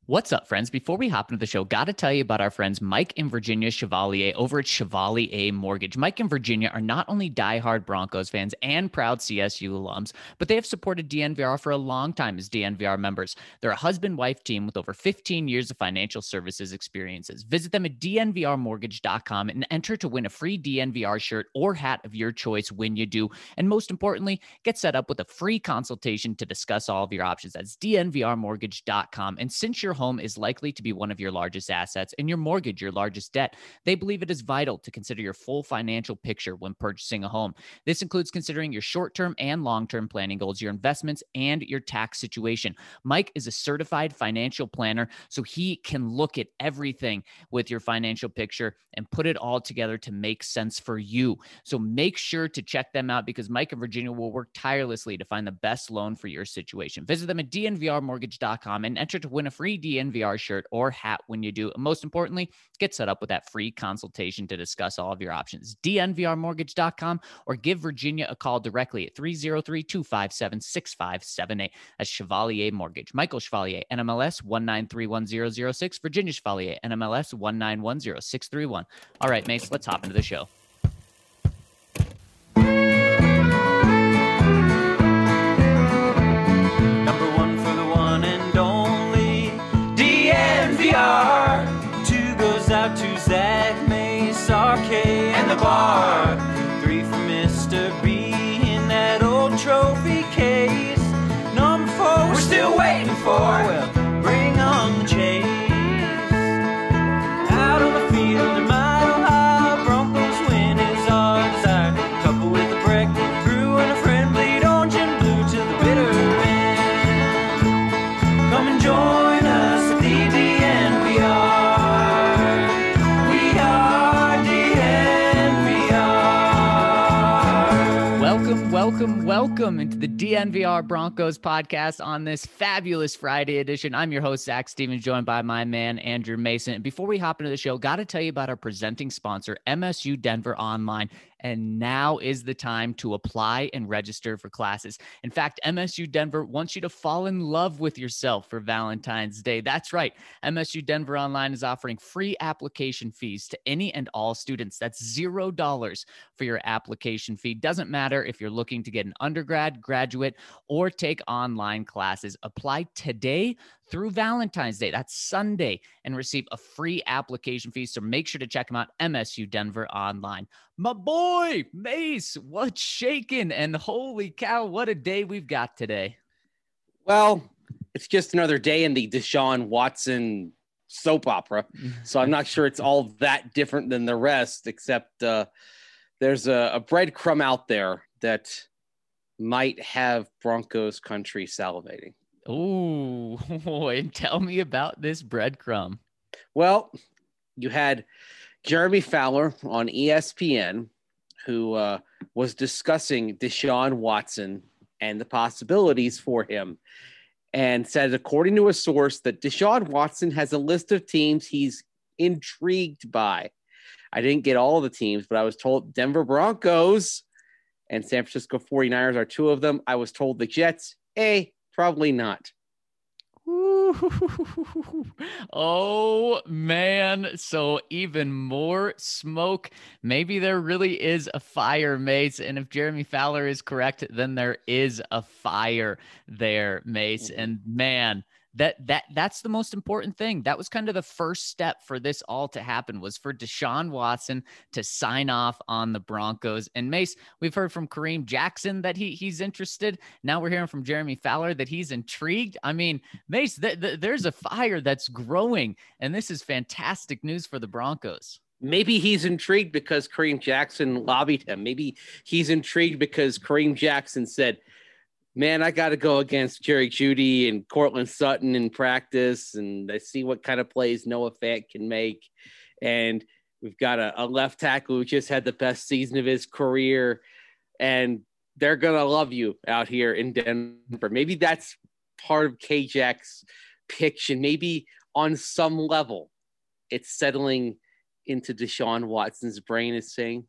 What's up, friends? Before we hop into the show, got to tell you about our friends Mike and Virginia Chevalier over at Chevalier Mortgage. Mike and Virginia are not only diehard Broncos fans and proud CSU alums, but they have supported DNVR for a long time as DNVR members. They're a husband-wife team with over 15 years of financial services experiences. Visit them at dnvrmortgage.com and enter to win a free DNVR shirt or hat of your choice when you do. And most importantly, get set up with a free consultation to discuss all of your options. That's dnvrmortgage.com. And since your home is likely to be one of your largest assets and your mortgage your largest debt, they believe it is vital to consider your full financial picture when purchasing a home. This includes considering your short-term and long-term planning goals, your investments, and your tax situation. Mike is a certified financial planner, so he can look at everything with your financial picture and put it all together to make sense for you. So make sure to check them out because Mike and Virginia will work tirelessly to find the best loan for your situation. Visit them at dnvrmortgage.com and enter to win a free DNVR shirt or hat when you do. And most importantly, get set up with that free consultation to discuss all of your options. dnvrmortgage.com or give Virginia a call directly at 303-257-6578. That's Chevalier Mortgage. Michael Chevalier, NMLS 1931006. Virginia Chevalier, NMLS 1910631. All right, Mace, let's hop into the show. Two goes out to Zach, Mace, RK, and the bar. Three for Mr. B in that old trophy case. Number four, we're still waiting for. Well, bring on the chase. Out on the field, a mile high, Broncos win is our desire. Couple with a break, brew and a friend, bleed orange and blue to the bitter end. Come and join us at the DNVR. Welcome into the DNVR Broncos podcast on this fabulous Friday edition. I'm your host, Zach Stevens, joined by my man, Andrew Mason. And before we hop into the show, got to tell you about our presenting sponsor, MSU Denver Online. And now is the time to apply and register for classes. In fact, MSU Denver wants you to fall in love with yourself for Valentine's Day. That's right. MSU Denver Online is offering free application fees to any and all students. That's $0 for your application fee. Doesn't matter if you're looking to get an undergrad, graduate, or take online classes. Apply today through Valentine's Day. That's Sunday, and receive a free application fee. So make sure to check them out, MSU Denver Online. My boy, Mace, what's shaking? And holy cow, what a day we've got today. Well, it's just another day in the Deshaun Watson soap opera. So I'm not sure it's all that different than the rest, except there's a breadcrumb out there that might have Broncos country salivating. Oh, and tell me about this breadcrumb. Well, you had Jeremy Fowler on ESPN, who was discussing Deshaun Watson and the possibilities for him, and said, according to a source, that Deshaun Watson has a list of teams he's intrigued by. I didn't get all the teams, but I was told Denver Broncos and San Francisco 49ers are two of them. I was told the Jets, probably not. Oh, man. So even more smoke. Maybe there really is a fire, Mace. And if Jeremy Fowler is correct, then there is a fire there, Mace. And man, that's the most important thing. That was kind of the first step for this all to happen, was for Deshaun Watson to sign off on the Broncos. And Mace, we've heard from Kareem Jackson that he's interested. Now we're hearing from Jeremy Fowler that he's intrigued. I mean, Mace, there's a fire that's growing, and this is fantastic news for the Broncos. Maybe he's intrigued because Kareem Jackson lobbied him. Maybe he's intrigued because Kareem Jackson said, man, I got to go against Jerry Jeudy and Cortland Sutton in practice, and I see what kind of plays Noah Fant can make. And we've got a left tackle who just had the best season of his career, and they're going to love you out here in Denver. Maybe that's part of K-Jack's pitch, and maybe on some level it's settling into Deshaun Watson's brain is saying,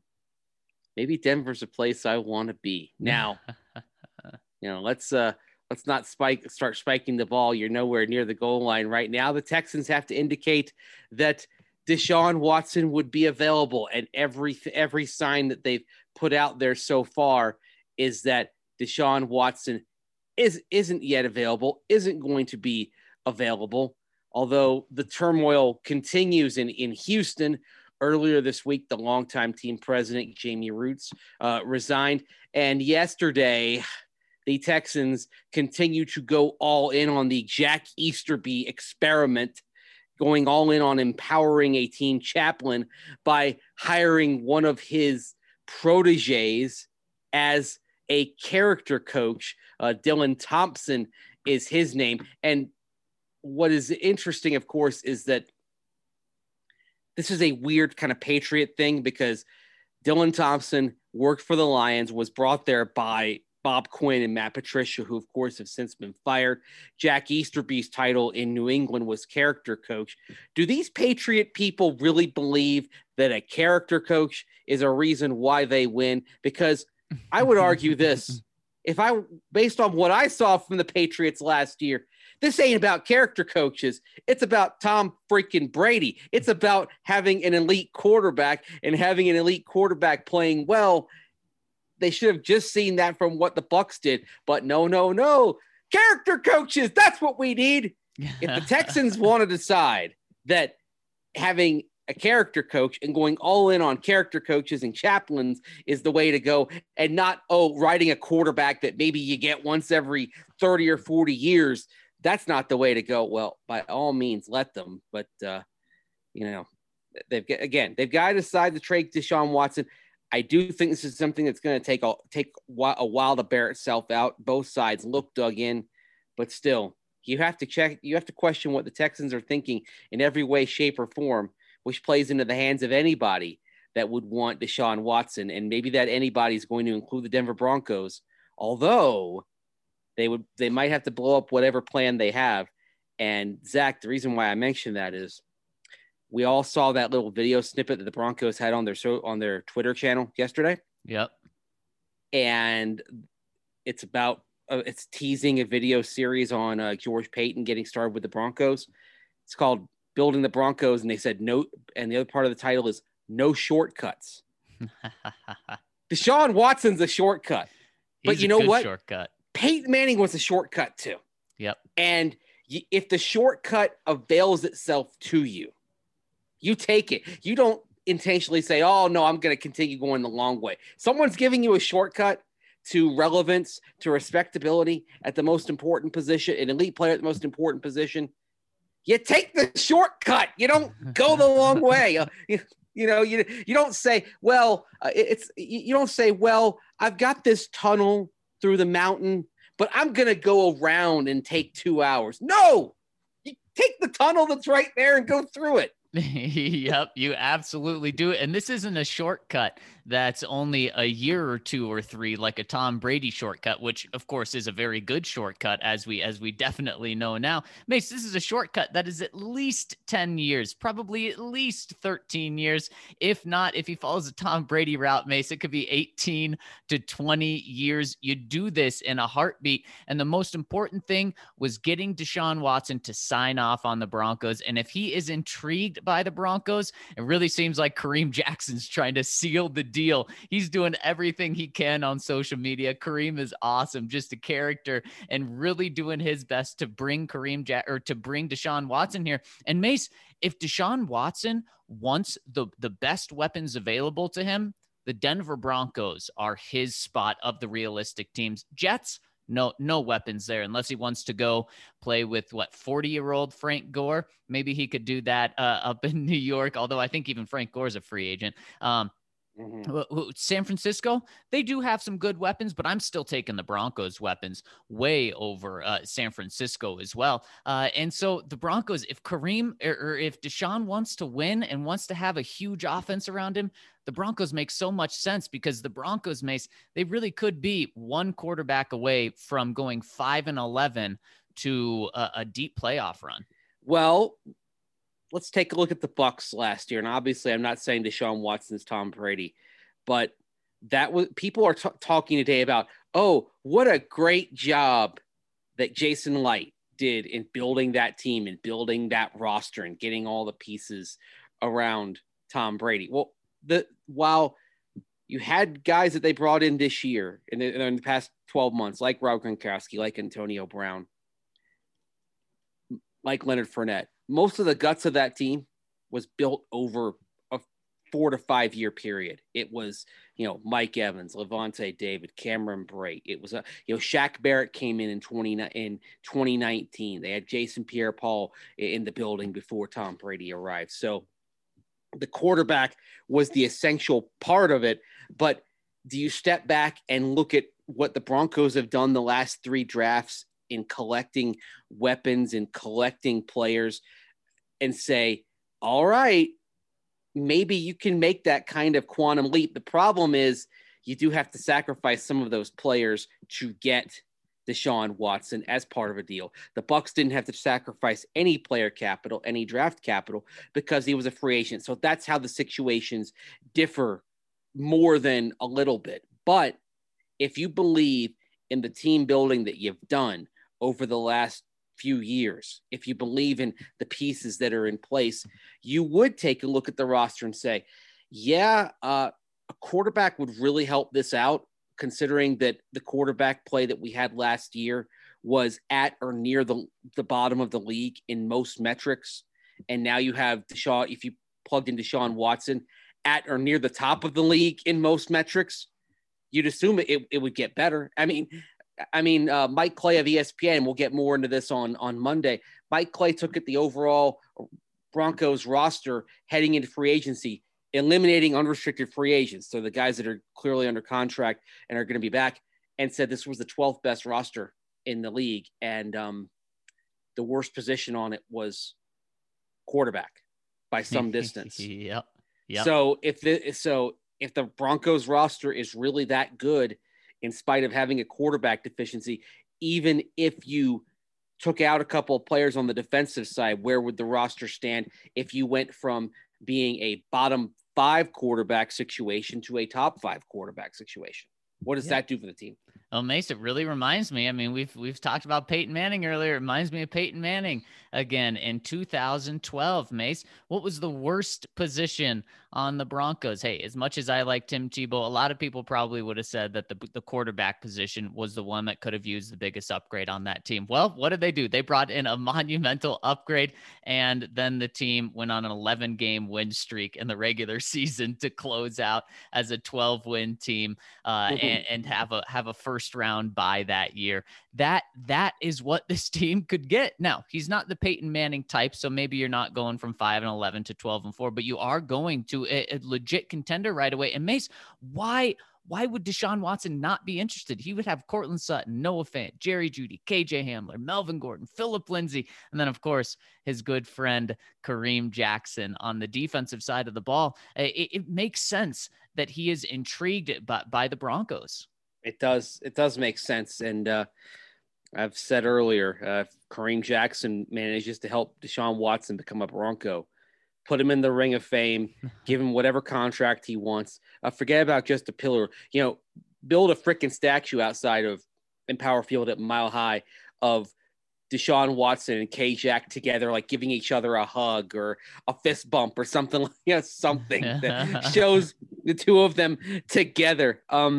maybe Denver's a place I want to be. Now, let's let's not start spiking the ball. You're nowhere near the goal line right now. The Texans have to indicate that Deshaun Watson would be available, and every sign that they've put out there so far is that Deshaun Watson isn't yet available, isn't going to be available. Although the turmoil continues in Houston. Earlier this week, the longtime team president, Jamie Roots, resigned. And yesterday, the Texans continue to go all in on the Jack Easterby experiment, going all in on empowering a team chaplain by hiring one of his proteges as a character coach. Dylan Thompson is his name. And what is interesting, of course, is that this is a weird kind of Patriot thing because Dylan Thompson worked for the Lions, was brought there by Bob Quinn and Matt Patricia, who, of course, have since been fired. Jack Easterby's title in New England was character coach. Do these Patriot people really believe that a character coach is a reason why they win? Because I would argue this. Based on what I saw from the Patriots last year, this ain't about character coaches. It's about Tom freaking Brady. It's about having an elite quarterback and having an elite quarterback playing well. They should have just seen that from what the Bucs did. But no. Character coaches, that's what we need. If the Texans want to decide that having a character coach and going all in on character coaches and chaplains is the way to go, and not, riding a quarterback that maybe you get once every 30 or 40 years, that's not the way to go. Well, by all means, let them. But, they've got to decide to trade Deshaun Watson. I do think this is something that's going to take a while to bear itself out. Both sides look dug in, but still, you have to question what the Texans are thinking in every way, shape, or form, which plays into the hands of anybody that would want Deshaun Watson. And maybe that anybody is going to include the Denver Broncos, although they might have to blow up whatever plan they have. And Zach, the reason why I mentioned that is we all saw that little video snippet that the Broncos had on their Twitter channel yesterday. Yep. And it's about it's teasing a video series on George Payton getting started with the Broncos. It's called Building the Broncos, and they said no. And the other part of the title is No Shortcuts. Deshaun Watson's a shortcut, but you know what? Shortcut. Peyton Manning was a shortcut too. Yep. And if the shortcut avails itself to you, you take it. You don't intentionally say, oh, no, I'm going to continue going the long way. Someone's giving you a shortcut to relevance, to respectability at the most important position, an elite player at the most important position. You take the shortcut. You don't go the long way. You don't say, you don't say, well, I've got this tunnel through the mountain, but I'm going to go around and take 2 hours. No, you take the tunnel that's right there and go through it. Yep, you absolutely do it. And this isn't a shortcut that's only a year or two or three, like a Tom Brady shortcut, which of course is a very good shortcut, as we definitely know now. Mace, this is a shortcut that is at least 10 years, probably at least 13 years. If not, if he follows a Tom Brady route, Mace, it could be 18 to 20 years. You do this in a heartbeat. And the most important thing was getting Deshaun Watson to sign off on the Broncos. And if he is intrigued by the Broncos, it really seems like Kareem Jackson's trying to seal the deal. He's doing everything he can on social media. Kareem is awesome, just a character, and really doing his best to bring to bring Deshaun Watson here. And Mace, if Deshaun Watson wants the best weapons available to him, the Denver Broncos are his spot of the realistic teams. Jets, no weapons there unless he wants to go play with 40-year-old Frank Gore. Maybe he could do that up in New York, although I think even Frank Gore is a free agent. San Francisco, they do have some good weapons, but I'm still taking the Broncos weapons way over San Francisco as well. And so the Broncos, if Kareem or if Deshaun wants to win and wants to have a huge offense around him, the Broncos make so much sense, because the Broncos, Mace, they really could be one quarterback away from going 5-11 to a deep playoff run. Well, let's take a look at the Bucs last year. And obviously I'm not saying Deshaun Watson's Tom Brady, but that was, people are talking today about, oh, what a great job that Jason Light did in building that team and building that roster and getting all the pieces around Tom Brady. Well, while you had guys that they brought in this year in the past 12 months, like Rob Gronkowski, like Antonio Brown, like Leonard Fournette, most of the guts of that team was built over a 4 to 5 year period. It was, Mike Evans, Levante David, Cameron Brate. It was Shaq Barrett came in 2019. They had Jason Pierre-Paul in the building before Tom Brady arrived. So the quarterback was the essential part of it. But do you step back and look at what the Broncos have done the last 3 drafts in collecting weapons and collecting players and say, all right, maybe you can make that kind of quantum leap. The problem is you do have to sacrifice some of those players to get Deshaun Watson as part of a deal. The Bucs didn't have to sacrifice any player capital, any draft capital, because he was a free agent. So that's how the situations differ more than a little bit. But if you believe in the team building that you've done over the last few years, if you believe in the pieces that are in place, you would take a look at the roster and say, yeah, a quarterback would really help this out, considering that the quarterback play that we had last year was at or near the bottom of the league in most metrics. And now you have Deshaun, if you plugged in Deshaun Watson, at or near the top of the league in most metrics, you'd assume it would get better. I mean, Mike Clay of ESPN, we'll get more into this on Monday. Mike Clay took at the overall Broncos roster heading into free agency, eliminating unrestricted free agents. So the guys that are clearly under contract and are going to be back, and said this was the 12th best roster in the league. And the worst position on it was quarterback by some distance. Yep. So if the Broncos roster is really that good, in spite of having a quarterback deficiency, even if you took out a couple of players on the defensive side, where would the roster stand if you went from being a bottom 5 quarterback situation to a top 5 quarterback situation? What does that do for the team? Well, Mace, it really reminds me. I mean, we've talked about Peyton Manning earlier. It reminds me of Peyton Manning again in 2012. Mace, what was the worst position on the Broncos? Hey, as much as I like Tim Tebow, a lot of people probably would have said that the quarterback position was the one that could have used the biggest upgrade on that team. Well, what did they do? They brought in a monumental upgrade, and then the team went on an 11-game win streak in the regular season to close out as a 12-win team and have a first round bye that year. That is what this team could get. Now, he's not the Peyton Manning type, so maybe you're not going from 5-11 to 12-4, but you are going to a legit contender right away. And Mace, why would Deshaun Watson not be interested? He would have Cortland Sutton, Noah Fant, Jerry Jeudy, KJ Hamler, Melvin Gordon, Phillip Lindsay, and then, of course, his good friend Kareem Jackson on the defensive side of the ball. It makes sense that he is intrigued by the Broncos. It does make sense. And I've said earlier, if Kareem Jackson manages to help Deshaun Watson become a Bronco, put him in the Ring of Fame, give him whatever contract he wants. Forget about just a pillar. Build a freaking statue outside of Empower Field at Mile High of Deshaun Watson and K-Jack together, like giving each other a hug or a fist bump or something something that shows the two of them together.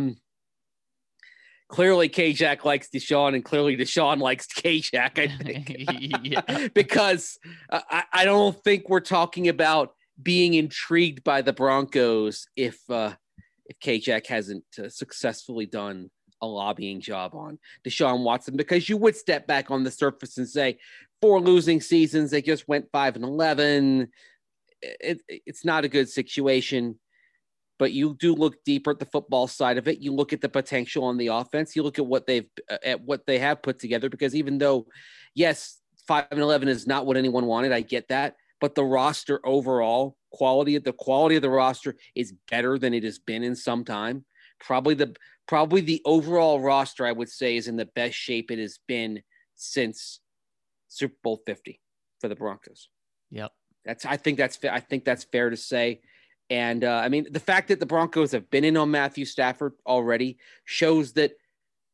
Clearly K-Jack likes Deshaun, and clearly Deshaun likes K-Jack, I think. Because I don't think we're talking about being intrigued by the Broncos if K-Jack hasn't successfully done a lobbying job on Deshaun Watson, because you would step back on the surface and say 4 losing seasons, they just went 5-11. It's not a good situation. But you do look deeper at the football side of it. You look at the potential on the offense. You look at what they have put together. Because even though, yes, 5-11 is not what anyone wanted, I get that. But the roster overall quality of the roster is better than it has been in some time. Probably the overall roster, I would say, is in the best shape it has since Super Bowl 50 for the Broncos. Yep. I think that's fair to say. And the fact that the Broncos have been in on Matthew Stafford already shows that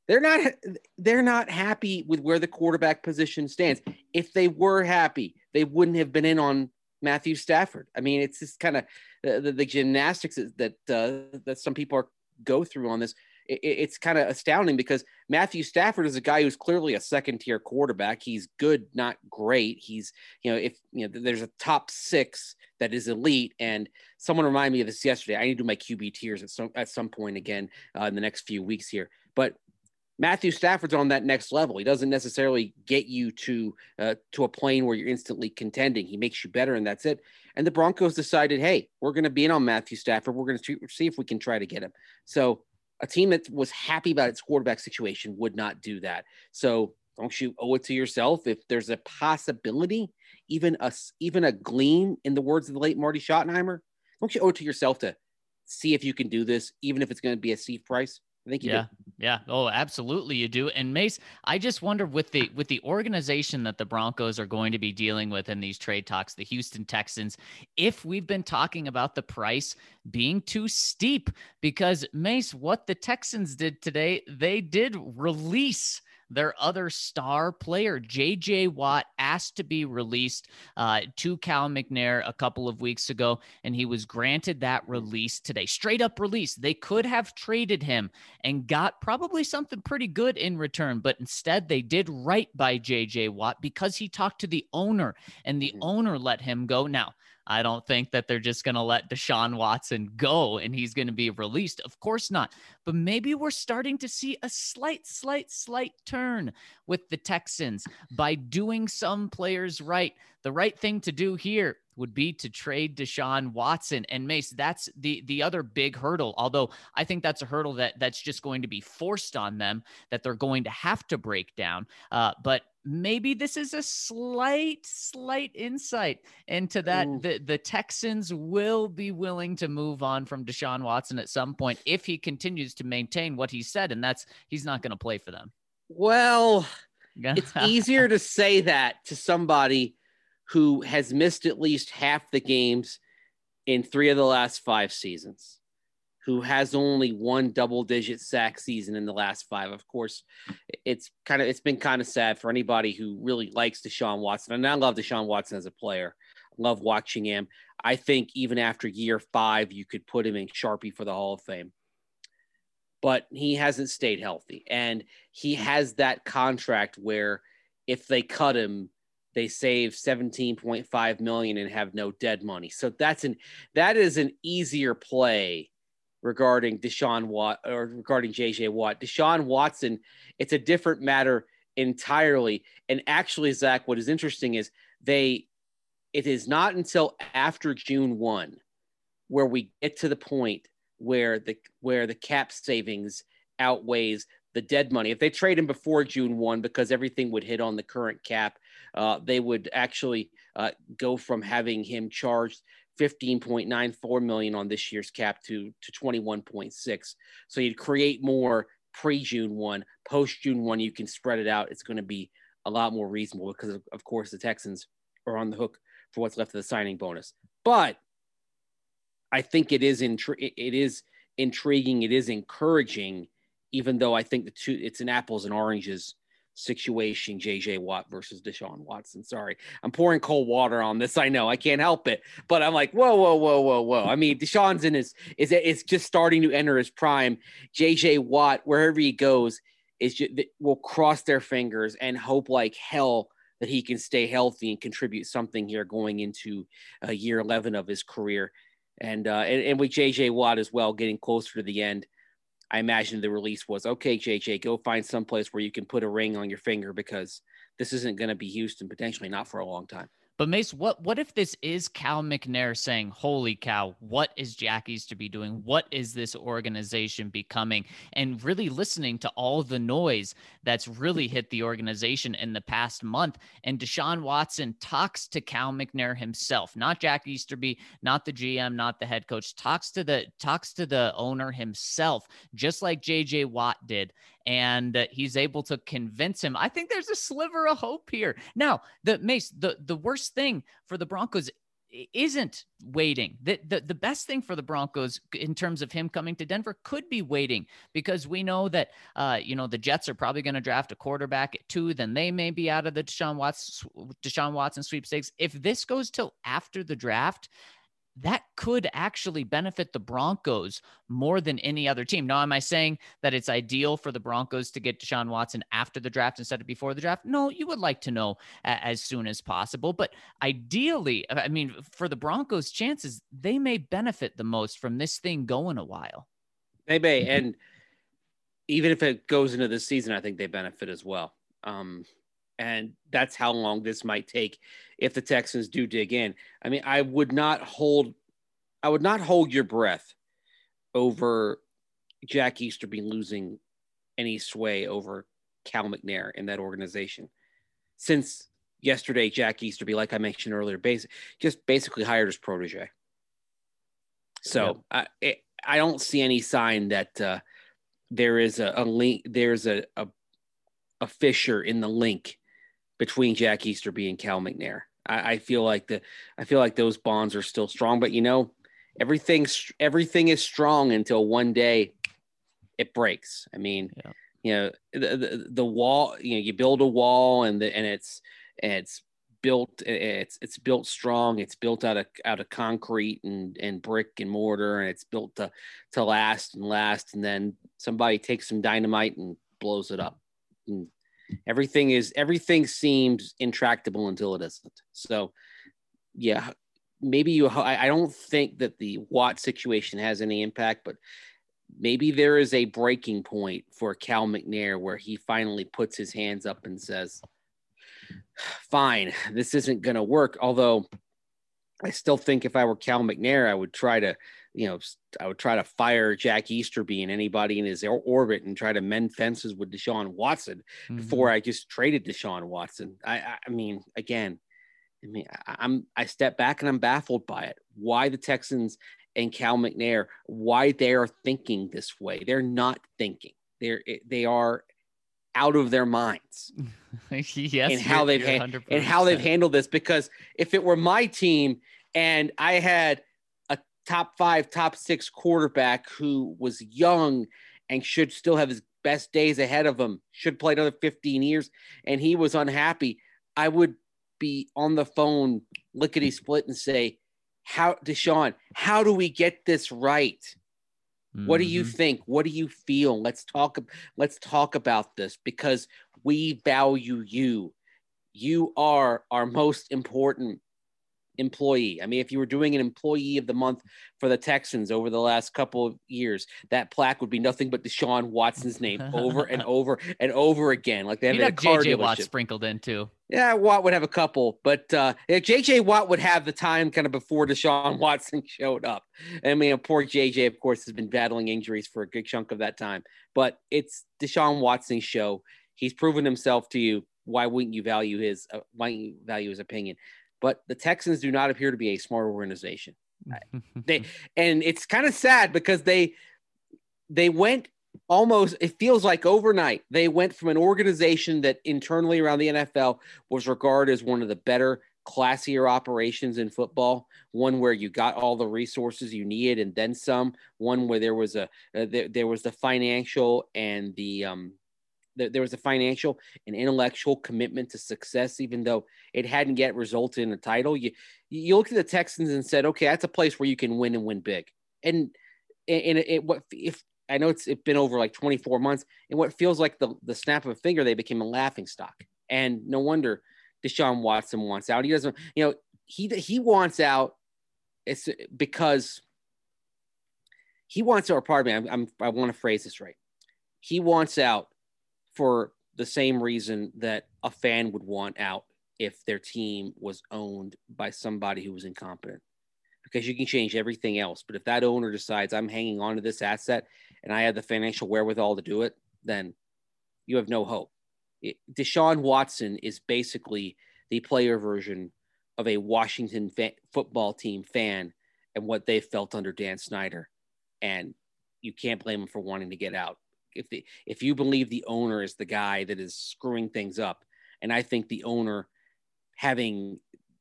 they're not happy with where the quarterback position stands. If they were happy, they wouldn't have been in on Matthew Stafford. I mean, it's just kind of the gymnastics that some people go through on this. It's kind of astounding because Matthew Stafford is a guy who's clearly a second-tier quarterback. He's good, not great. He's, if there's a top 6 that is elite, and someone reminded me of this yesterday. I need to do my QB tiers at some point again in the next few weeks here. But Matthew Stafford's on that next level. He doesn't necessarily get you to a plane where you're instantly contending. He makes you better, and that's it. And the Broncos decided, hey, we're going to be in on Matthew Stafford. We're going to see if we can try to get him. So a team that was happy about its quarterback situation would not do that. So don't you owe it to yourself if there's a possibility, even a gleam, in the words of the late Marty Schottenheimer, don't you owe it to yourself to see if you can do this, even if it's going to be a Steve Price? I think you do. Yeah. Oh, absolutely you do. And Mace, I just wonder with the organization that the Broncos are going to be dealing with in these trade talks, the Houston Texans, if we've been talking about the price being too steep, because Mace, what the Texans did today, they did release their other star player. J.J. Watt asked to be released to Cal McNair a couple of weeks ago, and he was granted that release today. Straight up release. They could have traded him and got probably something pretty good in return, but instead they did right by J.J. Watt because he talked to the owner, and the owner let him go. Now, I don't think that they're just going to let Deshaun Watson go and he's going to be released. Of course not. But maybe we're starting to see a slight turn with the Texans by doing some players right. The right thing to do here would be to trade Deshaun Watson. And Mace, that's the other big hurdle, although I think that's a hurdle that's just going to be forced on them, that they're going to have to break down. But maybe this is a slight insight into that. The Texans will be willing to move on from Deshaun Watson at some point if he continues to maintain what he said, and that's he's not going to play for them. Well, it's easier to say that to somebody who has missed at least half the games in 3 of the last 5 seasons, who has only 1 double-digit sack season in the last 5. Of course, it's been kind of sad for anybody who really likes Deshaun Watson. And I love Deshaun Watson as a player. I love watching him. I think even after year 5, you could put him in Sharpie for the Hall of Fame. But he hasn't stayed healthy. And he has that contract where if they cut him, they save $17.5 million and have no dead money. So that is an easier play regarding Deshaun Watt or regarding J.J. Watt. Deshaun Watson, it's a different matter entirely. And actually, Zach, what is interesting is it is not until after June 1 where we get to the point where the cap savings outweighs the dead money. If they trade him before June 1, because everything would hit on the current cap, they would actually go from having him charged $15.94 million on this year's cap to 21.6. So you'd create more pre-June 1. Post-June 1, you can spread it out. It's going to be a lot more reasonable because, of course, the Texans are on the hook for what's left of the signing bonus. But I think it is intriguing. It is encouraging, even though I think it's an apples and oranges situation, J.J. Watt versus Deshaun Watson. Sorry, I'm pouring cold water on this. I know I can't help it, but I'm like, whoa. I mean, Deshaun's is just starting to enter his prime. J.J. Watt, wherever he goes, will cross their fingers and hope like hell that he can stay healthy and contribute something here going into year 11 of his career. And with J.J. Watt as well, getting closer to the end, I imagine the release was, okay, J.J., go find someplace where you can put a ring on your finger because this isn't going to be Houston, potentially not for a long time. But Mace, what if this is Cal McNair saying, holy cow, what is Jack Easterby doing? What is this organization becoming? And really listening to all the noise that's really hit the organization in the past month. And Deshaun Watson talks to Cal McNair himself, not Jack Easterby, not the GM, not the head coach, talks to the owner himself, just like J.J. Watt did. And he's able to convince him. I think there's a sliver of hope here. Now, the worst thing for the Broncos, isn't waiting. The best thing for the Broncos in terms of him coming to Denver could be waiting, because we know that, the Jets are probably going to draft a quarterback at 2. Then they may be out of the Deshaun Watson sweepstakes. If this goes till after the draft, that could actually benefit the Broncos more than any other team. Now, am I saying that it's ideal for the Broncos to get Deshaun Watson after the draft instead of before the draft? No, you would like to know as soon as possible. But ideally, I mean, for the Broncos' chances, they may benefit the most from this thing going a while. They may. And even if it goes into the season, I think they benefit as well. And that's how long this might take if the Texans do dig in. I mean, I would not hold your breath over Jack Easterby losing any sway over Cal McNair in that organization. Since yesterday, Jack Easterby, like I mentioned earlier, just basically hired his protege. So I don't see any sign that there is a link. There's a fissure in the link between Jack Easterby and Cal McNair. I feel like those bonds are still strong, but everything is strong until one day it breaks. I mean, the wall, you build a wall and it's built strong. It's built out of concrete and brick and mortar, and it's built to last. And then somebody takes some dynamite and blows it up. And everything seems intractable until it isn't. So maybe I don't think that the Watt situation has any impact, but maybe there is a breaking point for Cal McNair where he finally puts his hands up and says, fine, this isn't going to work. Although I still think if I were Cal McNair, I would try to fire Jack Easterby and anybody in his orbit and try to mend fences with Deshaun Watson before I just traded Deshaun Watson. I step back and I'm baffled by it. Why the Texans and Cal McNair, why they are thinking this way. They're not thinking. They are out of their minds. Yes, and how they've handled this. Because if it were my team and I had a top 5, top 6 quarterback who was young and should still have his best days ahead of him, should play another 15 years, and he was unhappy, I would be on the phone lickety split and say, Deshaun, how do we get this right? What do you think? What do you feel? Let's talk about this, because we value you. You are our most important employee. I mean, if you were doing an employee of the month for the Texans over the last couple of years, that plaque would be nothing but Deshaun Watson's name over and over and over again. Like they have a car JJ dealership. Watt sprinkled in too. Yeah, Watt would have a couple, but JJ Watt would have the time kind of before Deshaun Watson showed up. I mean, poor JJ, of course, has been battling injuries for a good chunk of that time, but it's Deshaun Watson's show. He's proven himself to you. Why wouldn't you value his opinion? But the Texans do not appear to be a smart organization. And it's kind of sad because they went almost, it feels like overnight, they went from an organization that internally around the NFL was regarded as one of the better, classier operations in football, one where you got all the resources you needed and then some, one where there was the financial and there was a financial and intellectual commitment to success, even though it hadn't yet resulted in a title. You looked at the Texans and said, okay, that's a place where you can win and win big. And if I know it's been over like 24 months, and what feels like the snap of a finger, they became a laughing stock. And no wonder Deshaun Watson wants out. He doesn't, he wants out. It's because he wants, or pardon me, I want to phrase this right. He wants out for the same reason that a fan would want out if their team was owned by somebody who was incompetent, because you can change everything else. But if that owner decides I'm hanging on to this asset and I have the financial wherewithal to do it, then you have no hope. Deshaun Watson is basically the player version of a Washington football team fan and what they felt under Dan Snyder. And you can't blame him for wanting to get out. If you believe the owner is the guy that is screwing things up, and I think the owner having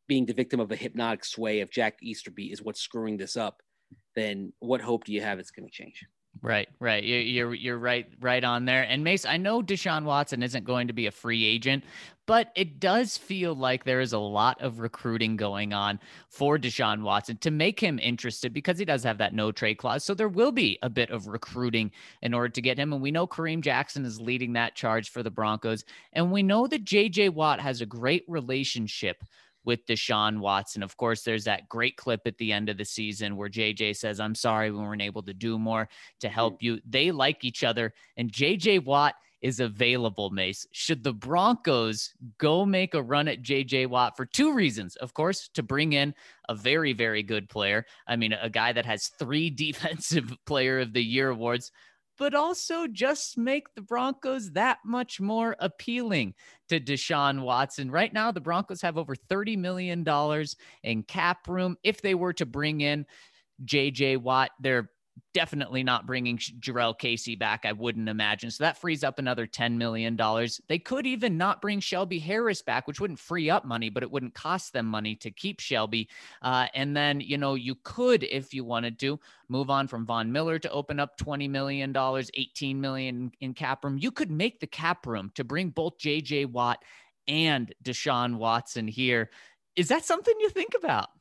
being the victim of a hypnotic sway of Jack Easterby is what's screwing this up, then what hope do you have it's going to change? Right. You're right on there. And Mace, I know Deshaun Watson isn't going to be a free agent, but it does feel like there is a lot of recruiting going on for Deshaun Watson to make him interested, because he does have that no trade clause. So there will be a bit of recruiting in order to get him. And we know Kareem Jackson is leading that charge for the Broncos. And we know that JJ Watt has a great relationship with Deshaun Watson. Of course, there's that great clip at the end of the season where JJ says, "I'm sorry we weren't able to do more to help you." They like each other, and JJ Watt is available, Mace. Should the Broncos go make a run at JJ Watt for two reasons? Of course, to bring in a very, very good player. I mean, a guy that has 3 Defensive Player of the Year awards, but also just make the Broncos that much more appealing to Deshaun Watson. Right now, the Broncos have over $30 million in cap room. If they were to bring in JJ Watt, they're definitely not bringing Jarrell Casey back, I wouldn't imagine. So that frees up another $10 million. They could even not bring Shelby Harris back, which wouldn't free up money, but it wouldn't cost them money to keep Shelby. And then, you could, if you wanted to, move on from Von Miller to open up $20 million, $18 million in cap room. You could make the cap room to bring both JJ Watt and Deshaun Watson here. Is that something you think about?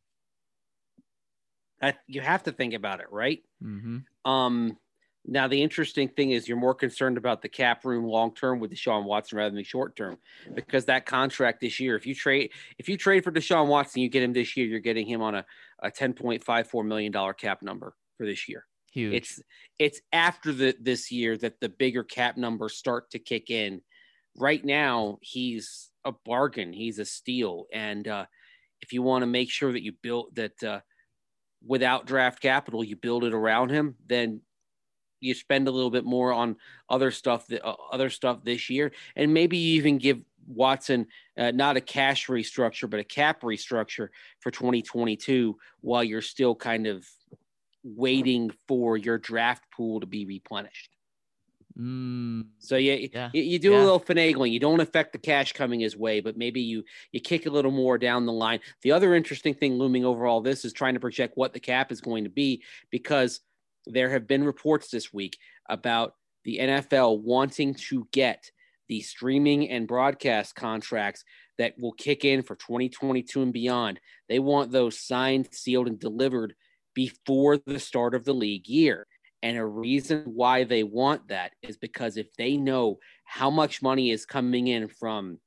You have to think about it, right? Mm-hmm. Now, the interesting thing is you're more concerned about the cap room long-term with Deshaun Watson rather than short-term, because that contract this year, if you trade for Deshaun Watson, you get him this year, you're getting him on a $10.54 million cap number for this year. Huge. It's after this year that the bigger cap numbers start to kick in. Right now, he's a bargain. He's a steal. And if you want to make sure that you build that without draft capital, you build it around him, then you spend a little bit more on other stuff this year. And maybe you even give Watson not a cash restructure, but a cap restructure for 2022 while you're still kind of waiting for your draft pool to be replenished. So you do a little finagling. You don't affect the cash coming his way, but maybe you kick a little more down the line. The other interesting thing looming over all this is trying to project what the cap is going to be, because there have been reports this week about the NFL wanting to get the streaming and broadcast contracts that will kick in for 2022 and beyond. They want those signed, sealed, and delivered before the start of the league year. And a reason why they want that is because if they know how much money is coming in from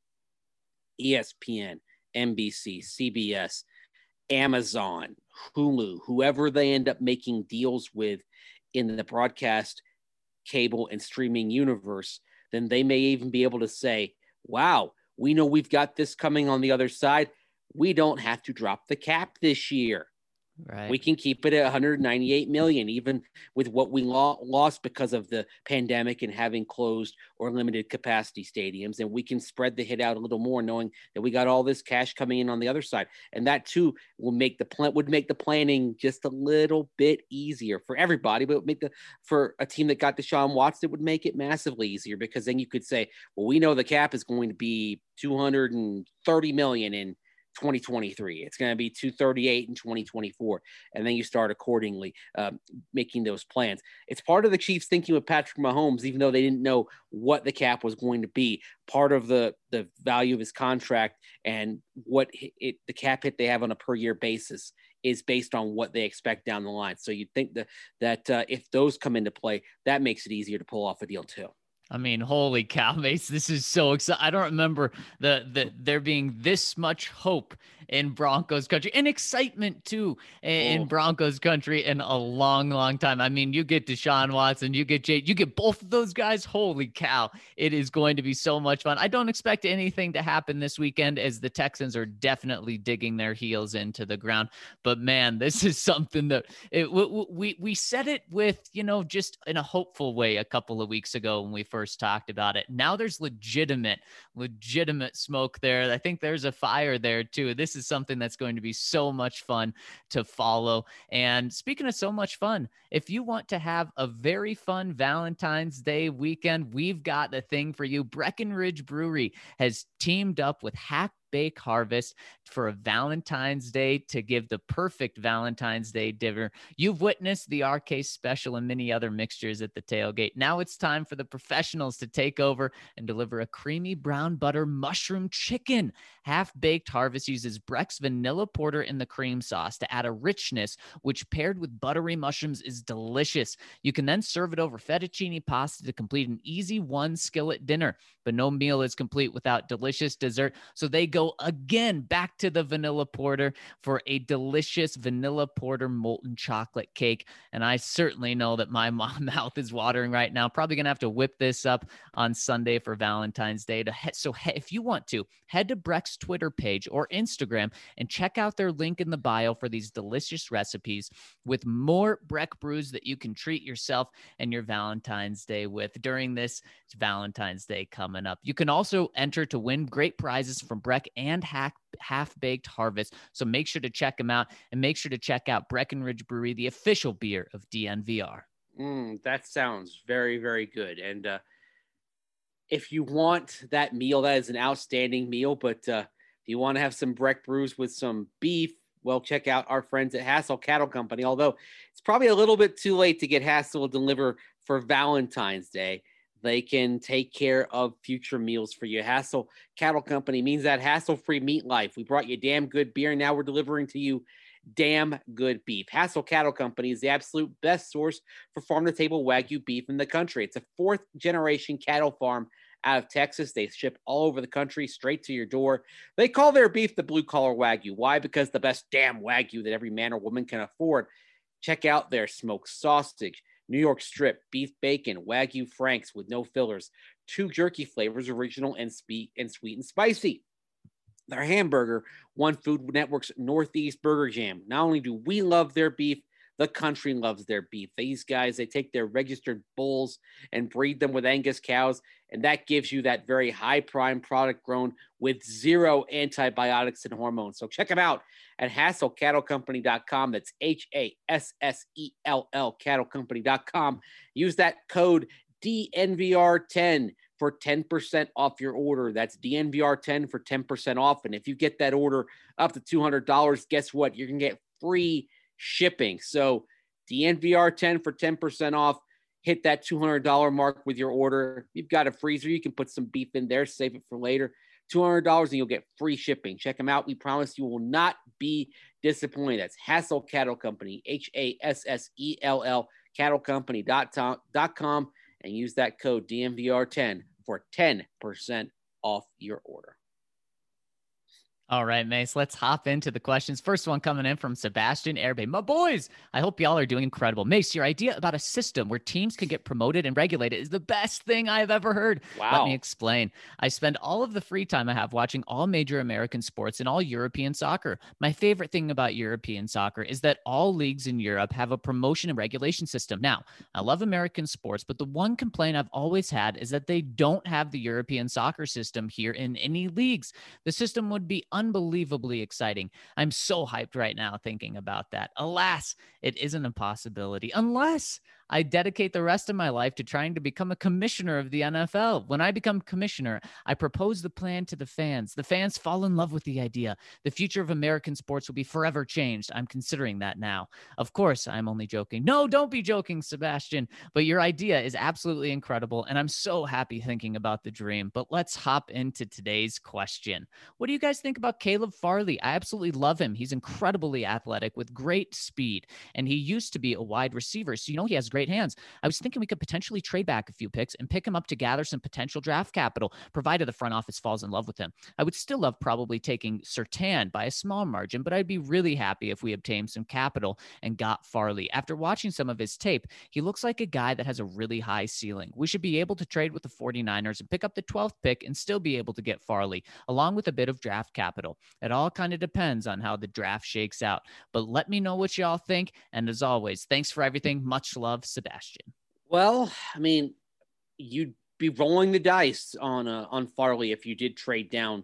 ESPN, NBC, CBS, Amazon, Hulu, whoever they end up making deals with in the broadcast, cable, and streaming universe, then they may even be able to say, wow, we know we've got this coming on the other side. We don't have to drop the cap this year. Right. We can keep it at 198 million, even with what we lost because of the pandemic and having closed or limited capacity stadiums. And we can spread the hit out a little more, knowing that we got all this cash coming in on the other side. And that too will make the planning just a little bit easier for everybody, but for a team that got Deshaun Watson, it would make it massively easier, because then you could say, well, we know the cap is going to be 230 million in 2023. It's going to be 238 in 2024. And then you start accordingly making those plans. It's part of the Chiefs thinking with Patrick Mahomes, even though they didn't know what the cap was going to be. Part of the value of his contract and what the cap hit they have on a per year basis is based on what they expect down the line. So you'd think that if those come into play, that makes it easier to pull off a deal too. I mean, holy cow, Mace, this is so exciting. I don't remember there being this much hope in Broncos country, and excitement too in Broncos country in a long, long time. I mean, you get Deshaun Watson, you get both of those guys. Holy cow. It is going to be so much fun. I don't expect anything to happen this weekend, as the Texans are definitely digging their heels into the ground. But man, this is something that we said it with, just in a hopeful way a couple of weeks ago when we first talked about it. Now there's legitimate smoke there. I think there's a fire there too. This is something that's going to be so much fun to follow. And speaking of so much fun, if you want to have a very fun Valentine's Day weekend, we've got the thing for you. Breckenridge Brewery has teamed up with Hack Bake Harvest for a Valentine's Day to give the perfect Valentine's Day dinner. You've witnessed the RK special and many other mixtures at the tailgate. Now it's time for the professionals to take over and deliver a creamy brown butter mushroom chicken. Half-Baked Harvest uses Breck's vanilla porter in the cream sauce to add a richness, which paired with buttery mushrooms is delicious. You can then serve it over fettuccine pasta to complete an easy one skillet dinner. But no meal is complete without delicious dessert. So they go again back to the vanilla porter for a delicious vanilla porter molten chocolate cake. And I certainly know that my mouth is watering right now. Probably going to have to whip this up on Sunday for Valentine's Day. So if you want to, head to Breck's Twitter page or Instagram and check out their link in the bio for these delicious recipes with more Breck brews that you can treat yourself and your Valentine's Day with during this Valentine's Day coming up. You can also enter to win great prizes from Breck and Half-Baked Harvest. So make sure to check them out, and make sure to check out Breckenridge Brewery, the official beer of DNVR. That sounds very, very good. And if you want that meal, that is an outstanding meal. But if you want to have some Breck brews with some beef, well, check out our friends at Hassel Cattle Company. Although it's probably a little bit too late to get Hassel to deliver for Valentine's Day, they can take care of future meals for you. Hassel Cattle Company means that hassle-free meat life. We brought you damn good beer, and now we're delivering to you damn good beef. Hassel Cattle Company is the absolute best source for farm-to-table Wagyu beef in the country. It's a fourth-generation cattle farm out of Texas. They ship all over the country, straight to your door. They call their beef the blue-collar Wagyu. Why? Because the best damn Wagyu that every man or woman can afford. Check out their smoked sausage, New York strip, beef bacon, Wagyu Franks with no fillers, 2 jerky flavors, original and sweet and spicy. Their hamburger, One Food Network's Northeast Burger Jam. Not only do we love their beef, the country loves their beef. These guys, they take their registered bulls and breed them with Angus cows, and that gives you that very high prime product grown with 0 antibiotics and hormones. So check them out at HassellCattleCompany.com. That's HASSELL cattlecompany.com. Use that code DNVR10 for 10% off your order. That's DNVR10 for 10% off. And if you get that order up to $200, guess what? You're going to get free shipping. So DNVR10 for 10% off. Hit that $200 mark with your order. You've got a freezer. You can put some beef in there, save it for later. $200 and you'll get free shipping. Check them out. We promise you will not be disappointed. That's Hassell Cattle Company, HASSELL cattlecompany.com, and use that code DNVR10 for 10% off your order. All right, Mace, let's hop into the questions. First one coming in from Sebastian Airbay. My boys, I hope y'all are doing incredible. Mace, your idea about a system where teams can get promoted and regulated is the best thing I've ever heard. Wow. Let me explain. I spend all of the free time I have watching all major American sports and all European soccer. My favorite thing about European soccer is that all leagues in Europe have a promotion and regulation system. Now, I love American sports, but the one complaint I've always had is that they don't have the European soccer system here in any leagues. The system would be unbelievably exciting. I'm so hyped right now thinking about that. Alas, it isn't a possibility unless I dedicate the rest of my life to trying to become a commissioner of the NFL. When I become commissioner, I propose the plan to the fans. The fans fall in love with the idea. The future of American sports will be forever changed. I'm considering that now. Of course, I'm only joking. No, don't be joking, Sebastian. But your idea is absolutely incredible, and I'm so happy thinking about the dream. But let's hop into today's question. What do you guys think about Caleb Farley? I absolutely love him. He's incredibly athletic with great speed, and he used to be a wide receiver, so he has great hands. I was thinking we could potentially trade back a few picks and pick him up to gather some potential draft capital, provided the front office falls in love with him. I would still love probably taking Surtain by a small margin, but I'd be really happy if we obtained some capital and got Farley. After watching some of his tape, he looks like a guy that has a really high ceiling. We should be able to trade with the 49ers and pick up the 12th pick and still be able to get Farley, along with a bit of draft capital. It all kind of depends on how the draft shakes out. But let me know what y'all think. And as always, thanks for everything. Much love, Sebastian. Well, I mean, you'd be rolling the dice on Farley if you did trade down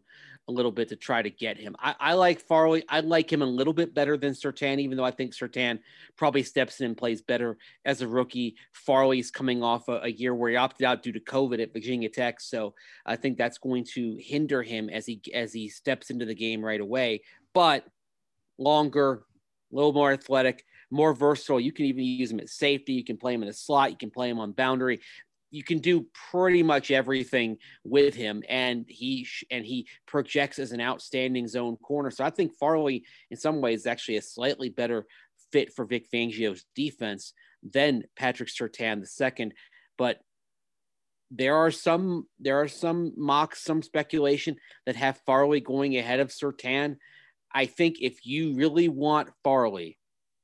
a little bit to try to get him. I like Farley. I like him a little bit better than Surtain, even though I think Surtain probably steps in and plays better as a rookie. Farley's coming off a year where he opted out due to COVID at Virginia Tech. So I think that's going to hinder him as he steps into the game right away. But longer, a little more athletic, more versatile. You can even use him at safety. You can play him in a slot. You can play him on boundary. You can do pretty much everything with him, and he projects as an outstanding zone corner. So I think Farley, in some ways, is actually a slightly better fit for Vic Fangio's defense than Patrick Surtain II. But there are some mocks, some speculation that have Farley going ahead of Surtain. I think if you really want Farley,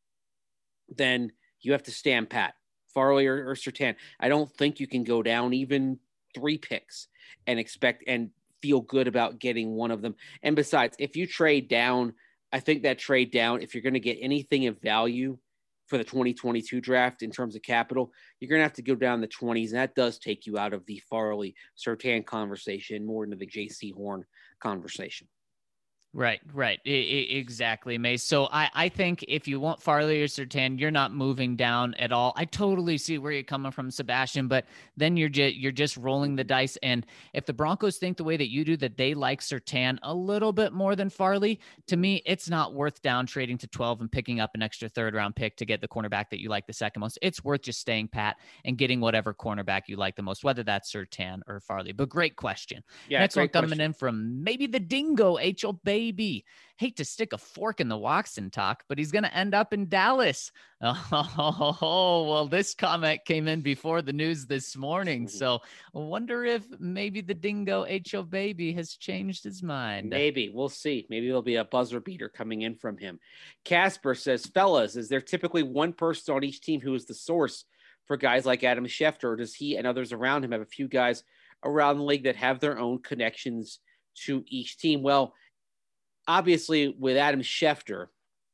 then you have to stand pat. Farley or Surtain. I don't think you can go down even 3 picks and expect and feel good about getting one of them. And besides, if you trade down, I think that trade down, if you're going to get anything of value for the 2022 draft in terms of capital, you're going to have to go down the 20s. And that does take you out of the Farley Surtain conversation, more into the JC Horn conversation. Right. Exactly, Mace. So I think if you want Farley or Surtain, you're not moving down at all. I totally see where you're coming from, Sebastian, but then you're just rolling the dice. And if the Broncos think the way that you do, that they like Surtain a little bit more than Farley, to me, it's not worth down trading to 12 and picking up an extra 3rd round pick to get the cornerback that you like the second most. It's worth just staying pat and getting whatever cornerback you like the most, whether that's Surtain or Farley. But great question. Yeah, next one coming in from maybe the Dingo, H.O. Baby. Hate to stick a fork in the Watson talk, but he's going to end up in Dallas. Oh, well, this comment came in before the news this morning. So I wonder if maybe the Dingo H.O. Baby has changed his mind. Maybe. We'll see. Maybe there'll be a buzzer beater coming in from him. Casper says, fellas, is there typically one person on each team who is the source for guys like Adam Schefter, or does he and others around him have a few guys around the league that have their own connections to each team? Well, obviously, with Adam Schefter,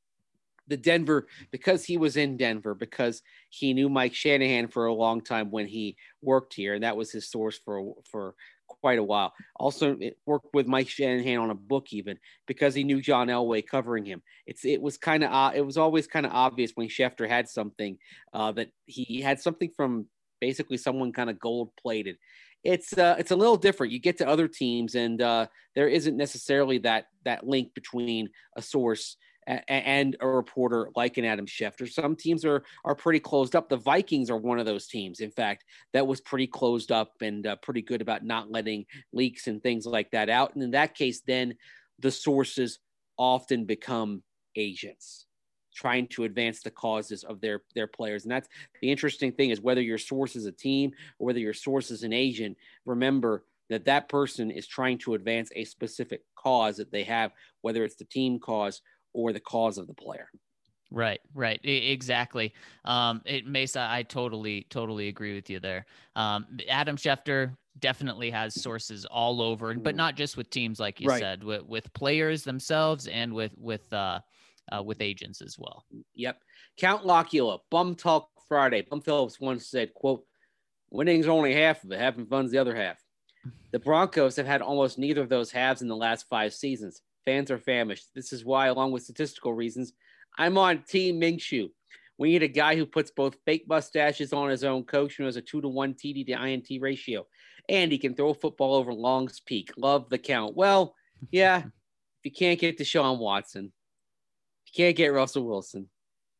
because he was in Denver, because he knew Mike Shanahan for a long time when he worked here, and that was his source for quite a while. Also, it worked with Mike Shanahan on a book, even because he knew John Elway covering him. It was always kind of obvious when Schefter had something that he had something from basically someone kind of gold plated. It's a little different. You get to other teams, and there isn't necessarily that link between a source and a reporter like an Adam Schefter. Some teams are pretty closed up. The Vikings are one of those teams, in fact, that was pretty closed up and pretty good about not letting leaks and things like that out. And in that case, then the sources often become agents trying to advance the causes of their players. And that's the interesting thing, is whether your source is a team or whether your source is an agent, remember that person is trying to advance a specific cause that they have, whether it's the team cause or the cause of the player. Right. Exactly. Mesa, I totally agree with you there. Adam Schefter definitely has sources all over, but not just with teams, like you said, with players themselves and with agents as well. Yep. Count Locula, Bum Talk Friday. Bum Phillips once said, quote, winning's only half of it. Having fun's the other half. The Broncos have had almost neither of those halves in the last 5 seasons. Fans are famished. This is why, along with statistical reasons, I'm on Team Minshew. We need a guy who puts both fake mustaches on his own coach, who has a 2-to-1 TD to INT ratio, and he can throw a football over Long's Peak. Love the count. Well, yeah, if you can't get Deshaun Watson, if you can't get Russell Wilson,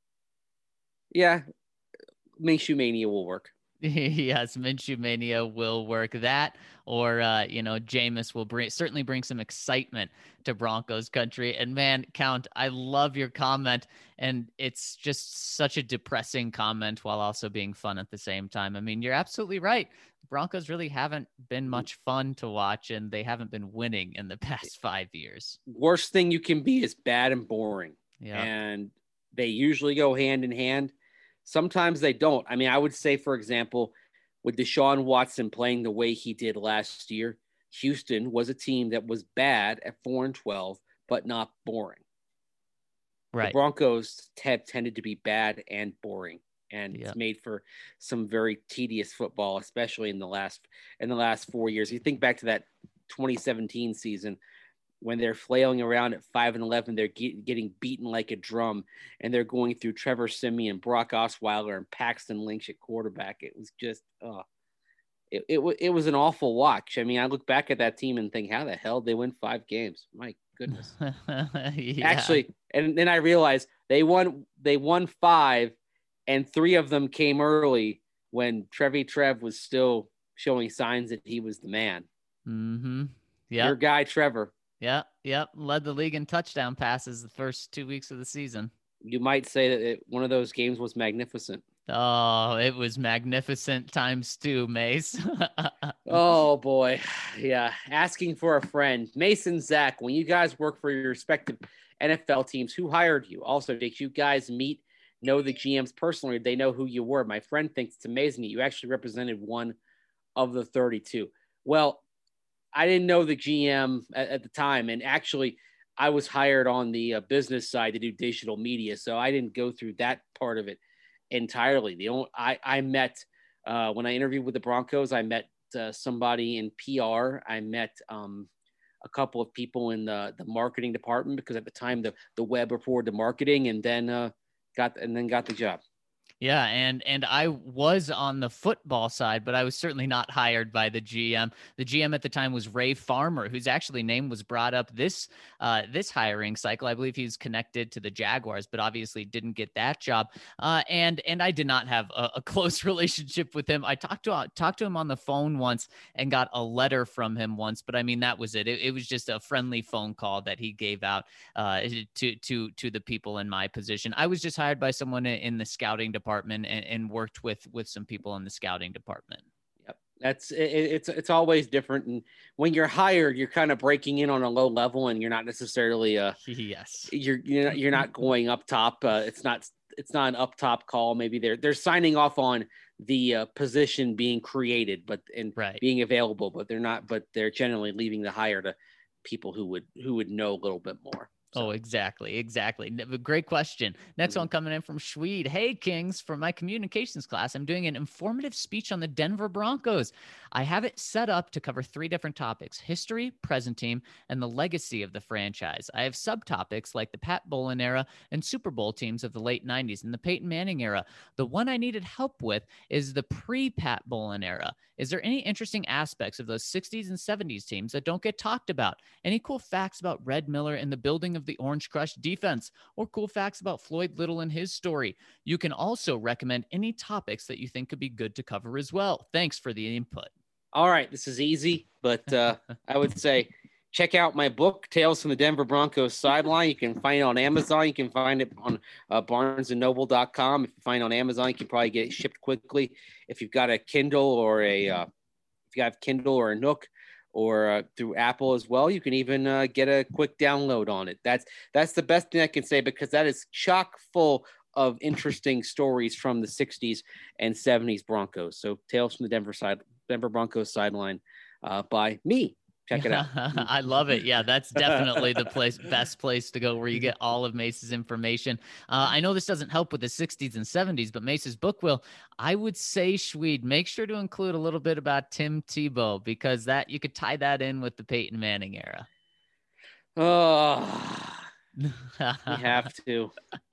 yeah, Minshew Mania will work. Yes, Minshew Mania will work. That, or Jameis will certainly bring some excitement to Broncos country. And man, Count, I love your comment, and it's just such a depressing comment while also being fun at the same time. I mean, you're absolutely right. Broncos really haven't been much fun to watch, and they haven't been winning in the past 5 years. Worst thing you can be is bad and boring. Yeah. And they usually go hand in hand. Sometimes they don't. I mean, I would say, for example, with Deshaun Watson playing the way he did last year, Houston was a team that was bad at 4-12, but not boring. Right. The Broncos have tended to be bad and boring, and it's made for some very tedious football, especially in the last 4 years. You think back to that 2017 season, when they're flailing around at 5-11, they're getting beaten like a drum, and they're going through Trevor Siemian, Brock Osweiler, and Paxton Lynch at quarterback. It was just, it was an awful watch. I mean, I look back at that team and think, how the hell they win 5 games? My goodness. Yeah. Actually, and then I realized they won 5, and 3 of them came early when Trev was still showing signs that he was the man. Mm-hmm. Yeah. Your guy, Trevor. Yep. Led the league in touchdown passes the first 2 weeks of the season. You might say that one of those games was magnificent. Oh, it was magnificent times 2, Mace. Oh, boy. Yeah. Asking for a friend. Mason, Zach, when you guys work for your respective NFL teams, who hired you? Also, did you guys know the GMs personally? They know who you were. My friend thinks it's amazing that you actually represented one of the 32. Well, I didn't know the GM at the time. And actually, I was hired on the business side to do digital media. So I didn't go through that part of it entirely. I met, when I interviewed with the Broncos, I met somebody in PR. I met a couple of people in the marketing department, because at the time the web reported the marketing, and then got the job. Yeah, and I was on the football side, but I was certainly not hired by the GM. The GM at the time was Ray Farmer, whose actually name was brought up this hiring cycle. I believe he's connected to the Jaguars, but obviously didn't get that job. And I did not have a close relationship with him. I talked to him on the phone once and got a letter from him once, but I mean, that was it. It was just a friendly phone call that he gave out to the people in my position. I was just hired by someone in the scouting department and worked with some people in the scouting department. Yep. It's always different. And when you're hired, you're kind of breaking in on a low level, and you're not necessarily yes, you're not going up top. It's not an up top call. Maybe they're signing off on the position being created, being available, but they're generally leaving the hire to people who would know a little bit more. Oh, exactly. Great question. Next one coming in from Schweed. Hey, Kings, for my communications class, I'm doing an informative speech on the Denver Broncos. I have it set up to cover 3 different topics: history, present team, and the legacy of the franchise. I have subtopics like the Pat Bowlen era and Super Bowl teams of the late 90s and the Peyton Manning era. The one I needed help with is the pre-Pat Bowlen era. Is there any interesting aspects of those 60s and 70s teams that don't get talked about? Any cool facts about Red Miller and the building of the Orange Crush defense, or cool facts about Floyd Little and his story? You can also recommend any topics that you think could be good to cover as well. Thanks for the input. All right, this is easy, but I would say check out my book, Tales from the Denver Broncos Sideline. You can find it on Amazon. You can find it on barnesandnoble.com. If you find it on Amazon, you can probably get it shipped quickly. If you've got a Kindle or if you have Kindle or a Nook, or through Apple as well, you can even get a quick download on it. That's the best thing I can say, because that is chock full of interesting stories from the 60s and 70s Broncos. So Tales from the Denver Broncos Sideline by me. Check it out. I love it. Yeah, that's definitely the best place to go, where you get all of Mace's information. I know this doesn't help with the 60s and 70s, but Mace's book will. I would say, Schweed, make sure to include a little bit about Tim Tebow, because that you could tie that in with the Peyton Manning era. Oh, we have to.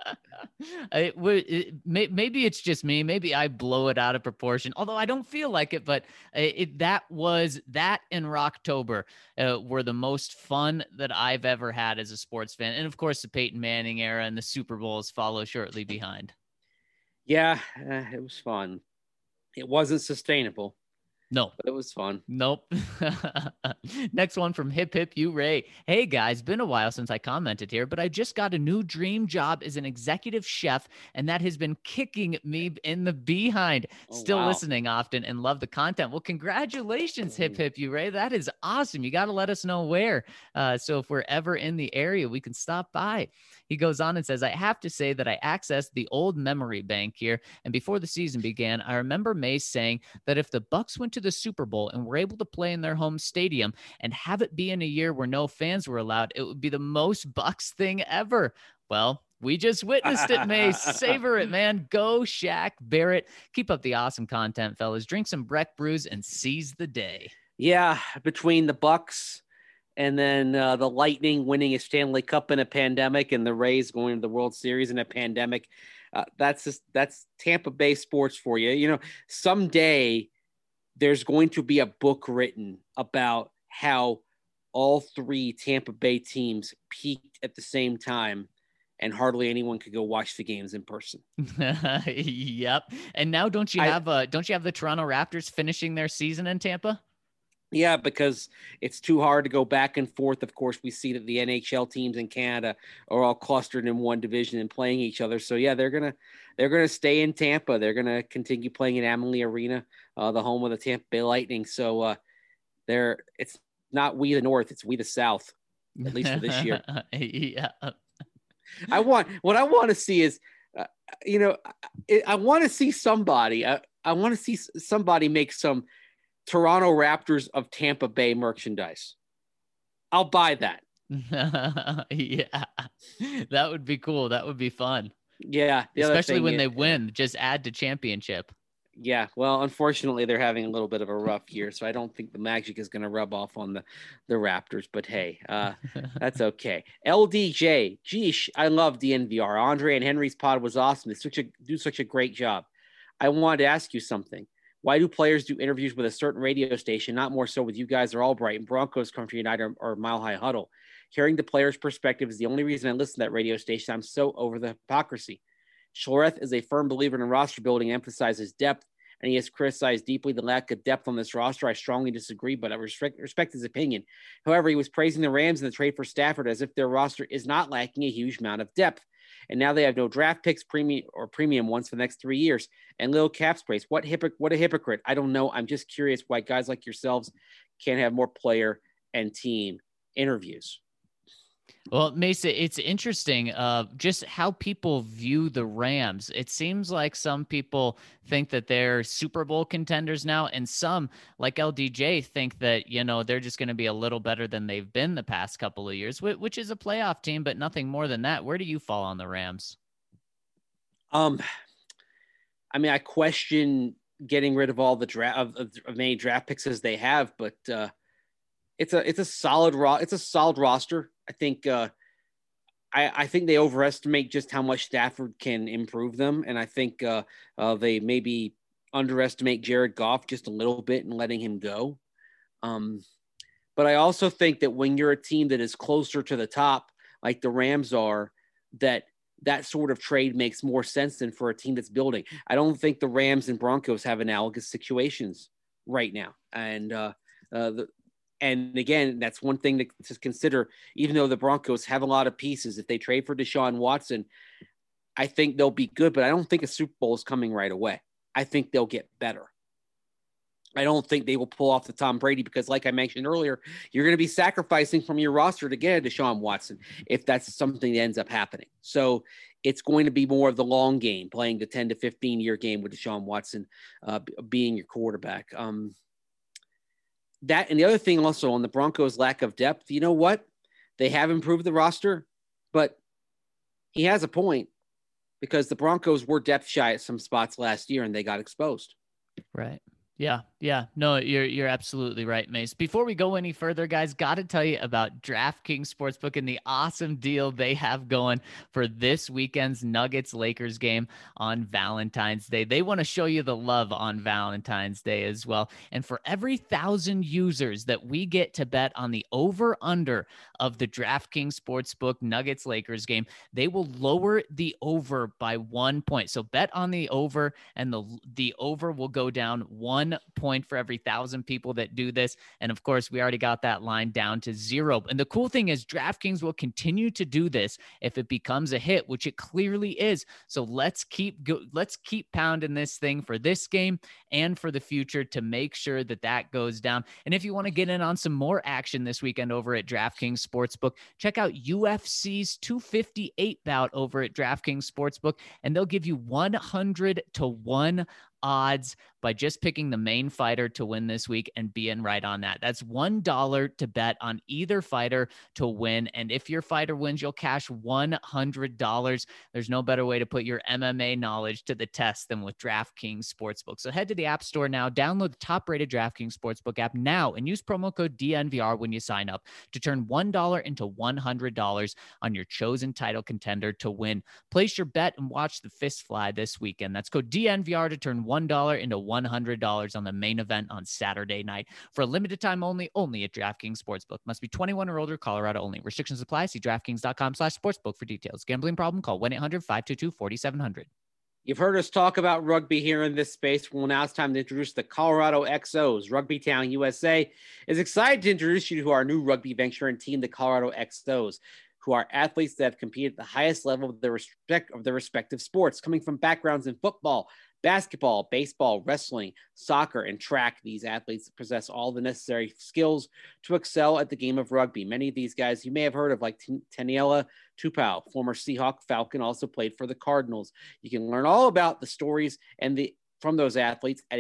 Maybe it's just me. Maybe I blow it out of proportion, although I don't feel like it. But that in Rocktober were the most fun that I've ever had as a sports fan. And of course, the Peyton Manning era and the Super Bowls follow shortly behind. Yeah, it was fun. It wasn't sustainable. No, but it was fun. Nope. Next one from Hip Hip You Ray. Hey guys, been a while since I commented here, but I just got a new dream job as an executive chef, and that has been kicking me in the behind. Still listening often and love the content. Well, congratulations, Hip Hip You Ray. That is awesome. You got to let us know where. So if we're ever in the area, we can stop by. He goes on and says, I have to say that I accessed the old memory bank here, and before the season began, I remember Mace saying that if the Bucs went to the Super Bowl and were able to play in their home stadium and have it be in a year where no fans were allowed, it would be the most Bucs thing ever. Well, we just witnessed it, Mace. Savor it, man. Go Shaq Barrett. Keep up the awesome content, fellas. Drink some Breck brews and seize the day. Yeah, between the Bucs And then the Lightning winning a Stanley Cup in a pandemic, and the Rays going to the World Series in a pandemic. That's Tampa Bay sports for you. You know, someday there's going to be a book written about how all three Tampa Bay teams peaked at the same time, and hardly anyone could go watch the games in person. Yep. And now don't you have the Toronto Raptors finishing their season in Tampa? Yeah, because it's too hard to go back and forth. Of course, we see that the NHL teams in Canada are all clustered in one division and playing each other. So yeah, they're gonna stay in Tampa. They're gonna continue playing in Amalie Arena, the home of the Tampa Bay Lightning. So it's not we the North, it's we the South, at least for this year. Yeah. What I want to see is, I want to see somebody. I want to see somebody make some Toronto Raptors of Tampa Bay merchandise. I'll buy that. Yeah, that would be cool. That would be fun. Yeah. Especially when they win, just add to championship. Yeah. Well, unfortunately, they're having a little bit of a rough year, so I don't think the magic is going to rub off on the Raptors, but hey, that's okay. LDJ, geesh, I love DNVR. Andre and Henry's pod was awesome. They do such a great job. I wanted to ask you something. Why do players do interviews with a certain radio station, not more so with you guys or Albright and Broncos Country United or Mile High Huddle? Hearing the player's perspective is the only reason I listen to that radio station. I'm so over the hypocrisy. Schlereth is a firm believer in roster building and emphasizes depth, and he has criticized deeply the lack of depth on this roster. I strongly disagree, but I respect his opinion. However, he was praising the Rams in the trade for Stafford as if their roster is not lacking a huge amount of depth. And now they have no draft picks, premium ones for the next 3 years, and little cap space. What a hypocrite. I don't know. I'm just curious why guys like yourselves can't have more player and team interviews. Well, Mesa, it's interesting just how people view the Rams. It seems like some people think that they're Super Bowl contenders now, and some, like LDJ, think that, they're just going to be a little better than they've been the past couple of years, which is a playoff team, but nothing more than that. Where do you fall on the Rams? I question getting rid of all the draft of many draft picks as they have, but it's a solid roster. I think I think they overestimate just how much Stafford can improve them, and I think they maybe underestimate Jared Goff just a little bit and letting him go. But I also think that when you're a team that is closer to the top, like the Rams are, that sort of trade makes more sense than for a team that's building. I don't think the Rams and Broncos have analogous situations right now, and again, that's one thing to consider. Even though the Broncos have a lot of pieces, if they trade for Deshaun Watson, I think they'll be good, but I don't think a Super Bowl is coming right away. I think they'll get better. I don't think they will pull off the Tom Brady because, like I mentioned earlier, you're going to be sacrificing from your roster to get a Deshaun Watson if that's something that ends up happening. So it's going to be more of the long game, playing the 10 to 15-year game with Deshaun Watson being your quarterback. That and the other thing also on the Broncos' lack of depth, you know what? They have improved the roster, but he has a point because the Broncos were depth shy at some spots last year and they got exposed. Right. Yeah. No, you're absolutely right, Mace. Before we go any further, guys, got to tell you about DraftKings Sportsbook and the awesome deal they have going for this weekend's Nuggets-Lakers game on Valentine's Day. They want to show you the love on Valentine's Day as well. And for every 1,000 users that we get to bet on the over-under of the DraftKings Sportsbook Nuggets-Lakers game, they will lower the over by 1 point. So bet on the over, and the over will go down 1 point for every 1,000 people that do this. And of course, we already got that line down to 0. And the cool thing is DraftKings will continue to do this if it becomes a hit, which it clearly is. So let's keep pounding this thing for this game and for the future to make sure that goes down. And if you want to get in on some more action this weekend over at DraftKings Sportsbook, check out UFC's 258 bout over at DraftKings Sportsbook, and they'll give you 100 to 1 odds by just picking the main fighter to win this week and be in right on that. That's $1 to bet on either fighter to win. And if your fighter wins, you'll cash $100. There's no better way to put your MMA knowledge to the test than with DraftKings Sportsbook. So head to the App Store now, download the top-rated DraftKings Sportsbook app now, and use promo code DNVR when you sign up to turn $1 into $100 on your chosen title contender to win. Place your bet and watch the fist fly this weekend. That's code DNVR to turn $1 into $100 on the main event on Saturday night. For a limited time only at DraftKings Sportsbook. Must be 21 or older, Colorado only. Restrictions apply. See DraftKings.com/sportsbook for details. Gambling problem? Call 1-800-522-4700. You've heard us talk about rugby here in this space. Well, now it's time to introduce the Colorado XOs. Rugby Town USA is excited to introduce you to our new rugby venture and team, the Colorado XOs, who are athletes that have competed at the highest level of their respective sports, coming from backgrounds in football, basketball, baseball, wrestling, soccer, and track. These athletes possess all the necessary skills to excel at the game of rugby. Many of these guys you may have heard of, like Taniela Tupou, former Seahawk Falcon, also played for the Cardinals. You can learn all about the stories from those athletes at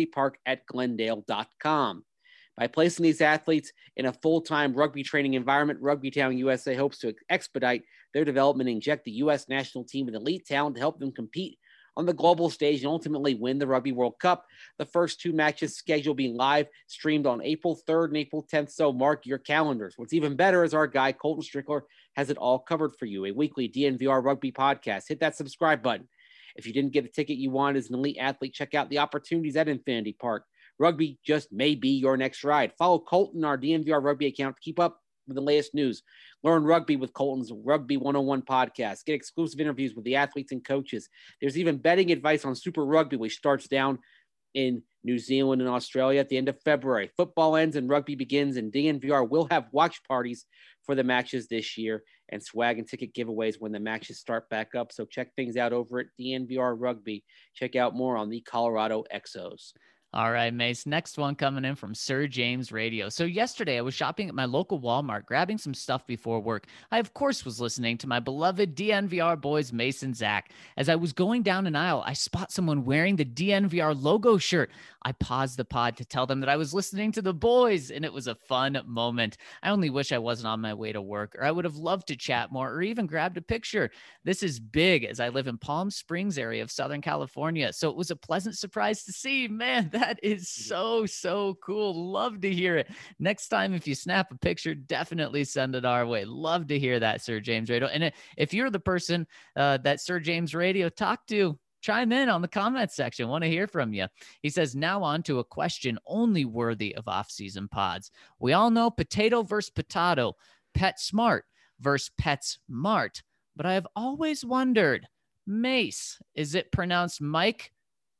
infinitypark@glendale.com. By placing these athletes in a full-time rugby training environment, Rugby Town USA hopes to expedite their development and inject the U.S. national team with elite talent to help them compete on the global stage and ultimately win the Rugby World Cup. The first two matches scheduled being live streamed on April 3rd and April 10th, so mark your calendars. What's even better is our guy, Colton Strickler, has it all covered for you, a weekly DNVR rugby podcast. Hit that subscribe button. If you didn't get the ticket you want as an elite athlete, check out the opportunities at Infinity Park. Rugby just may be your next ride. Follow Colton, our DNVR rugby account, to keep up with the latest news. Learn rugby with Colton's Rugby 101 podcast. Get exclusive interviews with the athletes and coaches. There's even betting advice on Super Rugby, which starts down in New Zealand and Australia at the end of February. Football ends and rugby begins, and DNVR will have watch parties for the matches this year and swag and ticket giveaways when the matches start back up. So check things out over at DNVR Rugby. Check out more on the Colorado XOs. All right, Mace. Next one coming in from Sir James Radio. So yesterday I was shopping at my local Walmart, grabbing some stuff before work. I, of course, was listening to my beloved DNVR boys, Mace and Zach. As I was going down an aisle, I spot someone wearing the DNVR logo shirt. I paused the pod to tell them that I was listening to the boys, and it was a fun moment. I only wish I wasn't on my way to work, or I would have loved to chat more or even grabbed a picture. This is big, as I live in Palm Springs area of Southern California, so it was a pleasant surprise to see. Man, that is so cool. Love to hear it. Next time, if you snap a picture, definitely send it our way. Love to hear that, Sir James Radio. And if you're the person that Sir James Radio talked to, chime in on the comment section. Want to hear from you. He says, now on to a question only worthy of off-season pods. We all know potato versus potato, pet smart versus pet smart. But I have always wondered, Mace, is it pronounced Mike?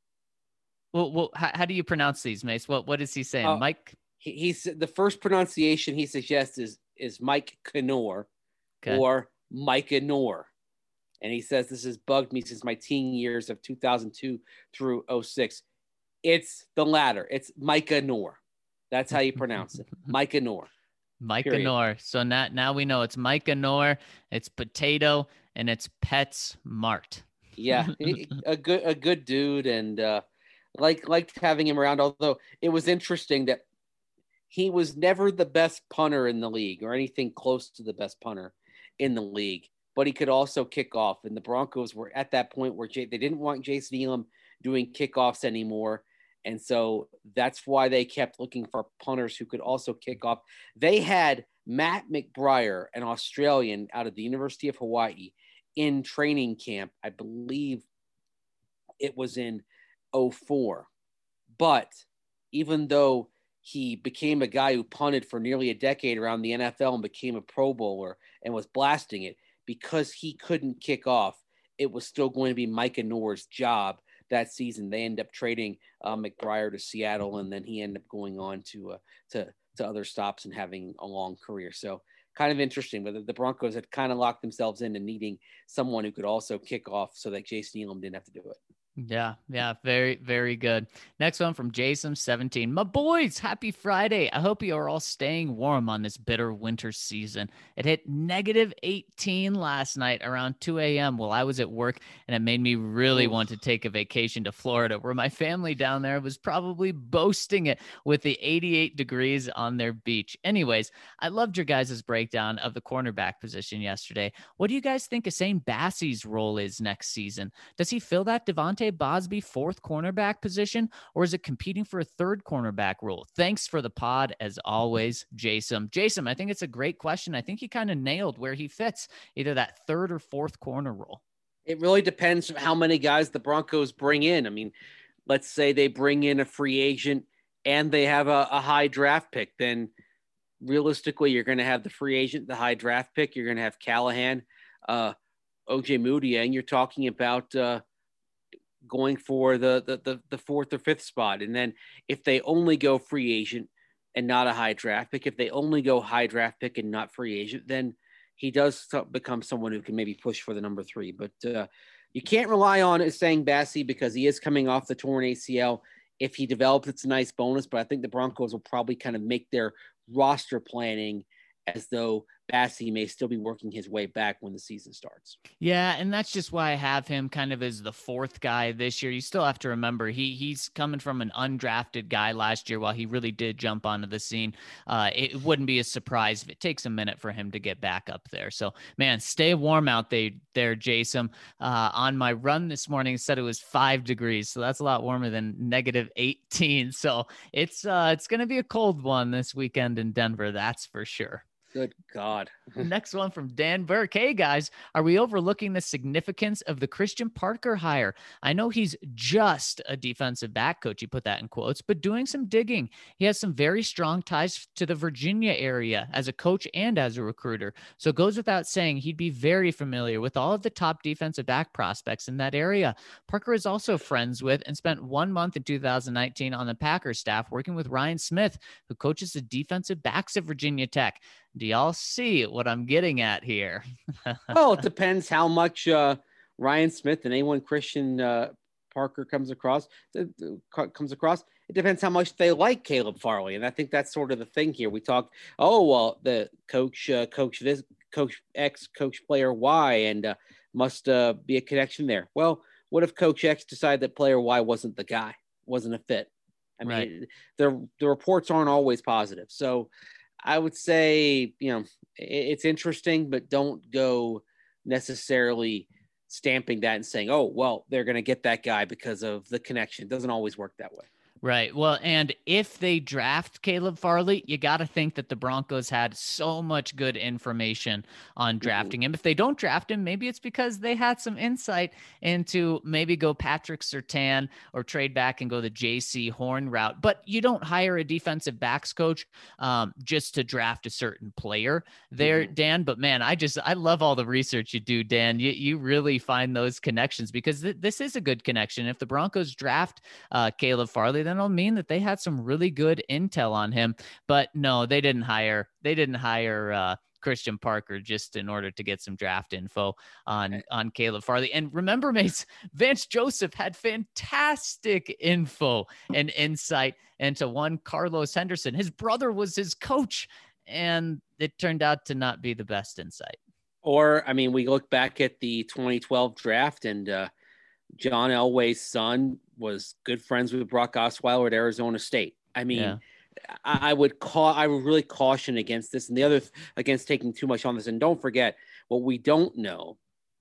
Well, how do you pronounce these, Mace? What is he saying? Mike? He's the first pronunciation he suggests is Mike Knorr, okay, or Micah Knorr. And he says, this has bugged me since my teen years of 2002 through 06. It's the latter. It's Micah Knorr. That's how you pronounce it. Micah Knorr. Micah Knorr. So now we know it's Micah Knorr, it's potato, and it's PetSmart. Yeah, a good dude, and liked having him around. Although it was interesting that he was never the best punter in the league or anything close to the best punter in the league, but he could also kick off. And the Broncos were at that point where they didn't want Jason Elam doing kickoffs anymore. And so that's why they kept looking for punters who could also kick off. They had Matt McBriar, an Australian out of the University of Hawaii, in training camp. I believe it was in 2004. But even though he became a guy who punted for nearly a decade around the NFL and became a Pro Bowler and was blasting it, because he couldn't kick off, it was still going to be Micah Knorr's job that season. They ended up trading McBriar to Seattle, and then he ended up going on to other stops and having a long career. So kind of interesting, but the Broncos had kind of locked themselves into needing someone who could also kick off so that Jason Elam didn't have to do it. Yeah, very, very good. Next one from Jason17. My boys, happy Friday. I hope you are all staying warm on this bitter winter season. It hit -18 last night around 2 a.m. while I was at work, and it made me really want to take a vacation to Florida, where my family down there was probably boasting it with the 88 degrees on their beach. Anyways, I loved your guys' breakdown of the cornerback position yesterday. What do you guys think Usain Bassey's role is next season? Does he fill that Devontae Bosby fourth cornerback position, or is it competing for a third cornerback role? Thanks for the pod, as always, Jason. Jason, I think it's a great question. I think he kind of nailed where he fits, either that third or fourth corner role. It really depends on how many guys the Broncos bring in. I mean, let's say they bring in a free agent and they have a high draft pick, then realistically, you're going to have the free agent, the high draft pick. You're going to have Callahan, OJ Moody, and you're talking about going for the fourth or fifth spot. And then if they only go free agent and not a high draft pick, if they only go high draft pick and not free agent, then he does become someone who can maybe push for the number 3. But you can't rely on Usain Bassey because he is coming off the torn ACL. If he develops, it's a nice bonus, but I think the Broncos will probably kind of make their roster planning as though Bassey may still be working his way back when the season starts. Yeah, and that's just why I have him kind of as the fourth guy this year. You still have to remember he's coming from an undrafted guy last year while he really did jump onto the scene. It wouldn't be a surprise if it takes a minute for him to get back up there. So, man, stay warm out there, Jason. On my run this morning, it said it was 5 degrees, so that's a lot warmer than -18. So it's going to be a cold one this weekend in Denver, that's for sure. Good God. Next one from Dan Burke. Hey, guys, are we overlooking the significance of the Christian Parker hire? I know he's just a defensive back coach. He put that in quotes, but doing some digging. He has some very strong ties to the Virginia area as a coach and as a recruiter. So it goes without saying he'd be very familiar with all of the top defensive back prospects in that area. Parker is also friends with and spent 1 month in 2019 on the Packers staff working with Ryan Smith, who coaches the defensive backs at Virginia Tech. Do y'all see what I'm getting at here? Well, it depends how much Ryan Smith and anyone Christian Parker comes across. It depends how much they like Caleb Farley, and I think that's sort of the thing here. We talked, the coach this, coach X, coach player Y, and must be a connection there. Well, what if Coach X decided that player Y wasn't the guy, wasn't a fit? I mean, the reports aren't always positive, so. I would say, it's interesting, but don't go necessarily stamping that and saying, oh, well, they're going to get that guy because of the connection. It doesn't always work that way. Right. Well, and if they draft Caleb Farley, you got to think that the Broncos had so much good information on drafting him. If they don't draft him, maybe it's because they had some insight into maybe go Patrick Surtain or trade back and go the JC Horn route. But you don't hire a defensive backs coach just to draft a certain player there, Dan. But man, I love all the research you do, Dan. You really find those connections because this is a good connection. If the Broncos draft Caleb Farley, then it'll mean that they had some really good intel on him. But no, they didn't hire Christian Parker just in order to get some draft info on Caleb Farley. And remember, mates, Vance Joseph had fantastic info and insight into one Carlos Henderson. His brother was his coach, and it turned out to not be the best insight. Or, I mean, we look back at the 2012 draft, and John Elway's son was good friends with Brock Osweiler at Arizona State. I mean, I would really caution against this, and the other against taking too much on this. And don't forget, what we don't know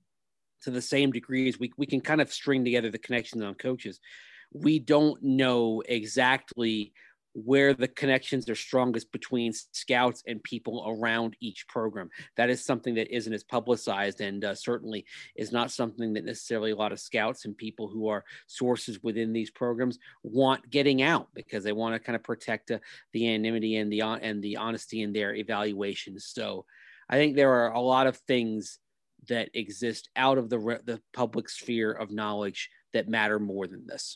to the same degree as we can kind of string together the connections on coaches. We don't know exactly where the connections are strongest between scouts and people around each program. That is something that isn't as publicized, and certainly is not something that necessarily a lot of scouts and people who are sources within these programs want getting out, because they want to kind of protect the anonymity and the honesty in their evaluations. So I think there are a lot of things that exist out of the public sphere of knowledge that matter more than this.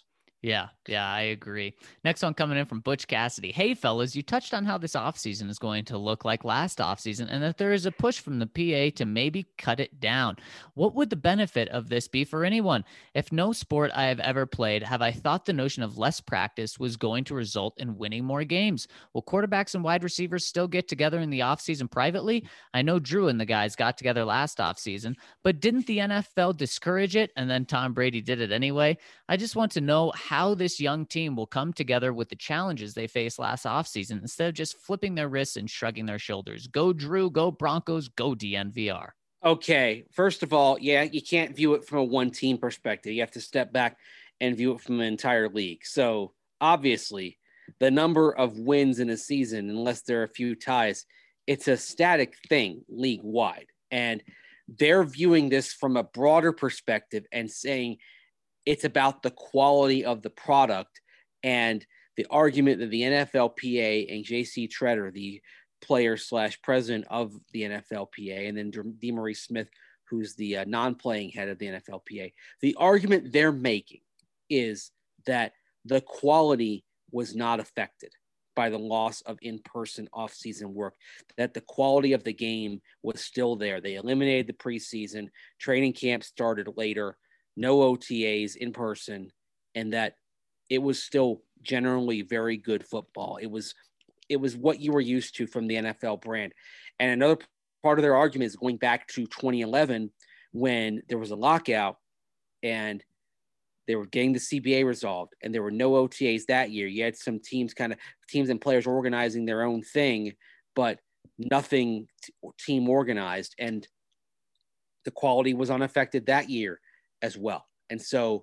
Yeah, I agree. Next one coming in from Butch Cassidy. Hey, fellas, you touched on how this offseason is going to look like last offseason and that there is a push from the PA to maybe cut it down. What would the benefit of this be for anyone? If no sport I have ever played have I thought the notion of less practice was going to result in winning more games. Will quarterbacks and wide receivers still get together in the offseason privately? I know Drew and the guys got together last offseason, but didn't the NFL discourage it and then Tom Brady did it anyway? I just want to know how this young team will come together with the challenges they faced last offseason instead of just flipping their wrists and shrugging their shoulders. Go Drew, go Broncos, go DNVR. Okay, first of all, yeah, you can't view it from a one team perspective. You have to step back and view it from an entire league. So obviously, the number of wins in a season, unless there are a few ties, it's a static thing league wide. And they're viewing this from a broader perspective and saying it's about the quality of the product. And the argument that the NFLPA and JC Treader, the player / president of the NFLPA, and then DeMaurice Smith, who's the non-playing head of the NFLPA, the argument they're making is that the quality was not affected by the loss of in-person off-season work, that the quality of the game was still there. They eliminated the preseason, training camp started later, no OTAs in person, and that it was still generally very good football. It was what you were used to from the NFL brand. And another part of their argument is going back to 2011 when there was a lockout and they were getting the CBA resolved and there were no OTAs that year. You had some teams and players organizing their own thing, but nothing team organized. And the quality was unaffected that year as well. And so,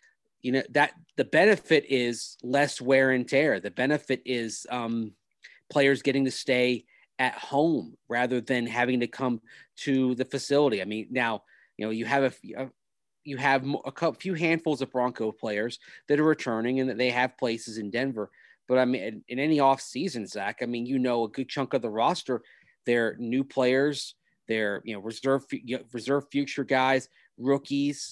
that the benefit is less wear and tear. The benefit is players getting to stay at home rather than having to come to the facility. I mean, now, you have a few handfuls of Bronco players that are returning and that they have places in Denver. But I mean, in any off season, Zach, I mean, a good chunk of the roster, they're new players, they're, reserve future guys, rookies,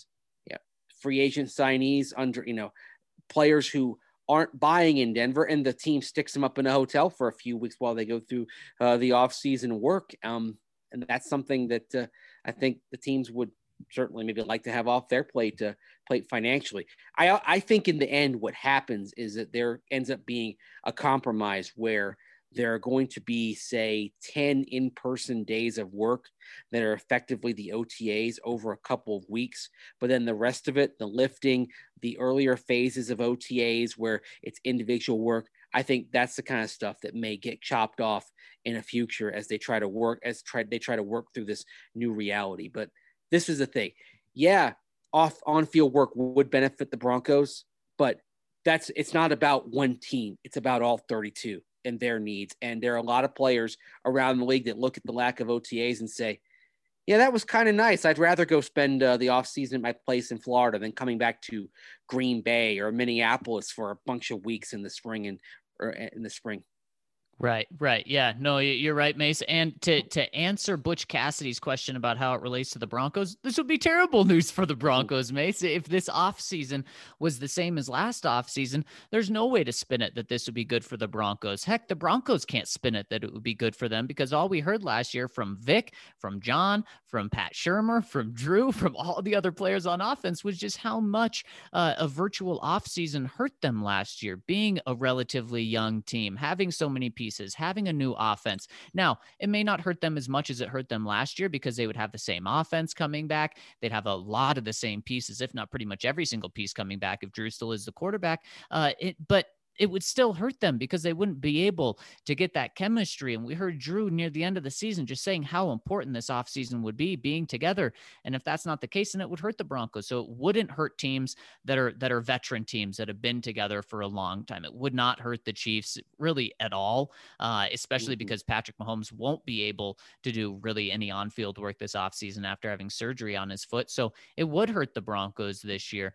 free agent signees under, players who aren't buying in Denver, and the team sticks them up in a hotel for a few weeks while they go through the off-season work. And that's something that I think the teams would certainly maybe like to have off their plate financially. I think in the end, what happens is that there ends up being a compromise where there are going to be, say, 10 in-person days of work that are effectively the OTAs over a couple of weeks. But then the rest of it, the lifting, the earlier phases of OTAs where it's individual work, I think that's the kind of stuff that may get chopped off in the future as they try to work through this new reality. But this is the thing. Yeah, on-field work would benefit the Broncos, but it's not about one team. It's about all 32. And their needs. And there are a lot of players around the league that look at the lack of OTAs and say, yeah, that was kind of nice. I'd rather go spend the off season at my place in Florida than coming back to Green Bay or Minneapolis for a bunch of weeks in the spring or in the spring. Right. Yeah, no, you're right, Mace. And to answer Butch Cassidy's question about how it relates to the Broncos, this would be terrible news for the Broncos, Mace. If this offseason was the same as last offseason, there's no way to spin it that this would be good for the Broncos. Heck, the Broncos can't spin it that it would be good for them because all we heard last year from Vic, from John, from Pat Shurmur, from Drew, from all the other players on offense was just how much a virtual offseason hurt them last year, being a relatively young team, having so many pieces, having a new offense. Now, it may not hurt them as much as it hurt them last year because they would have the same offense coming back. They'd have a lot of the same pieces, if not pretty much every single piece coming back if Drew still is the quarterback. But it would still hurt them because they wouldn't be able to get that chemistry. And we heard Drew near the end of the season just saying how important this offseason would be being together. And if that's not the case, then it would hurt the Broncos. So it wouldn't hurt teams that are veteran teams that have been together for a long time. It would not hurt the Chiefs really at all, especially because Patrick Mahomes won't be able to do really any on-field work this offseason after having surgery on his foot. So it would hurt the Broncos this year.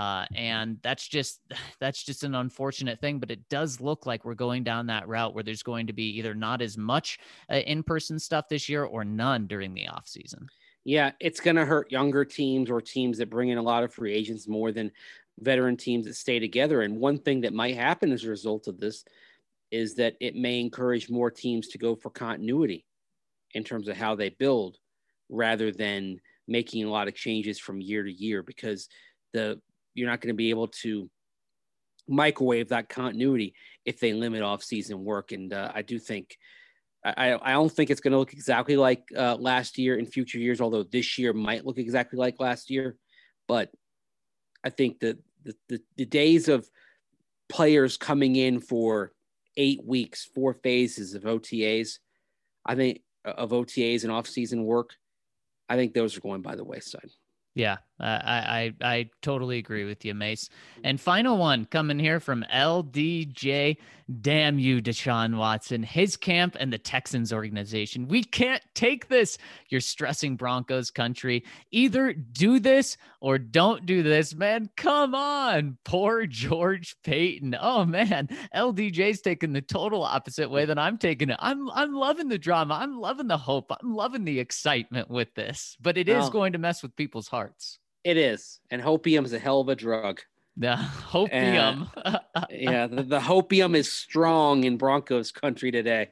And that's just an unfortunate thing. But it does look like we're going down that route where there's going to be either not as much in-person stuff this year or none during the off season. Yeah, it's going to hurt younger teams or teams that bring in a lot of free agents more than veteran teams that stay together. And one thing that might happen as a result of this is that it may encourage more teams to go for continuity in terms of how they build rather than making a lot of changes from year to year, because you're not going to be able to microwave that continuity if they limit off-season work. And I do think I don't think it's going to look exactly like last year in future years, although this year might look exactly like last year. But I think that the days of players coming in for 8 weeks, 4 phases of OTAs, I think of OTAs and off-season work, I think those are going by the wayside. Yeah, I totally agree with you, Mace. And final one coming here from LDJ. Damn you, Deshaun Watson, his camp, and the Texans organization. We can't take this. You're stressing Broncos country. Either do this or don't do this, man. Come on. Poor George Paton. Oh, man. LDJ's taking the total opposite way than I'm taking it. I'm loving the drama. I'm loving the hope. I'm loving the excitement with this. But it is going to mess with people's hearts. It is. And hopium is a hell of a drug. The hopium. Yeah, the hopium is strong in Broncos country today.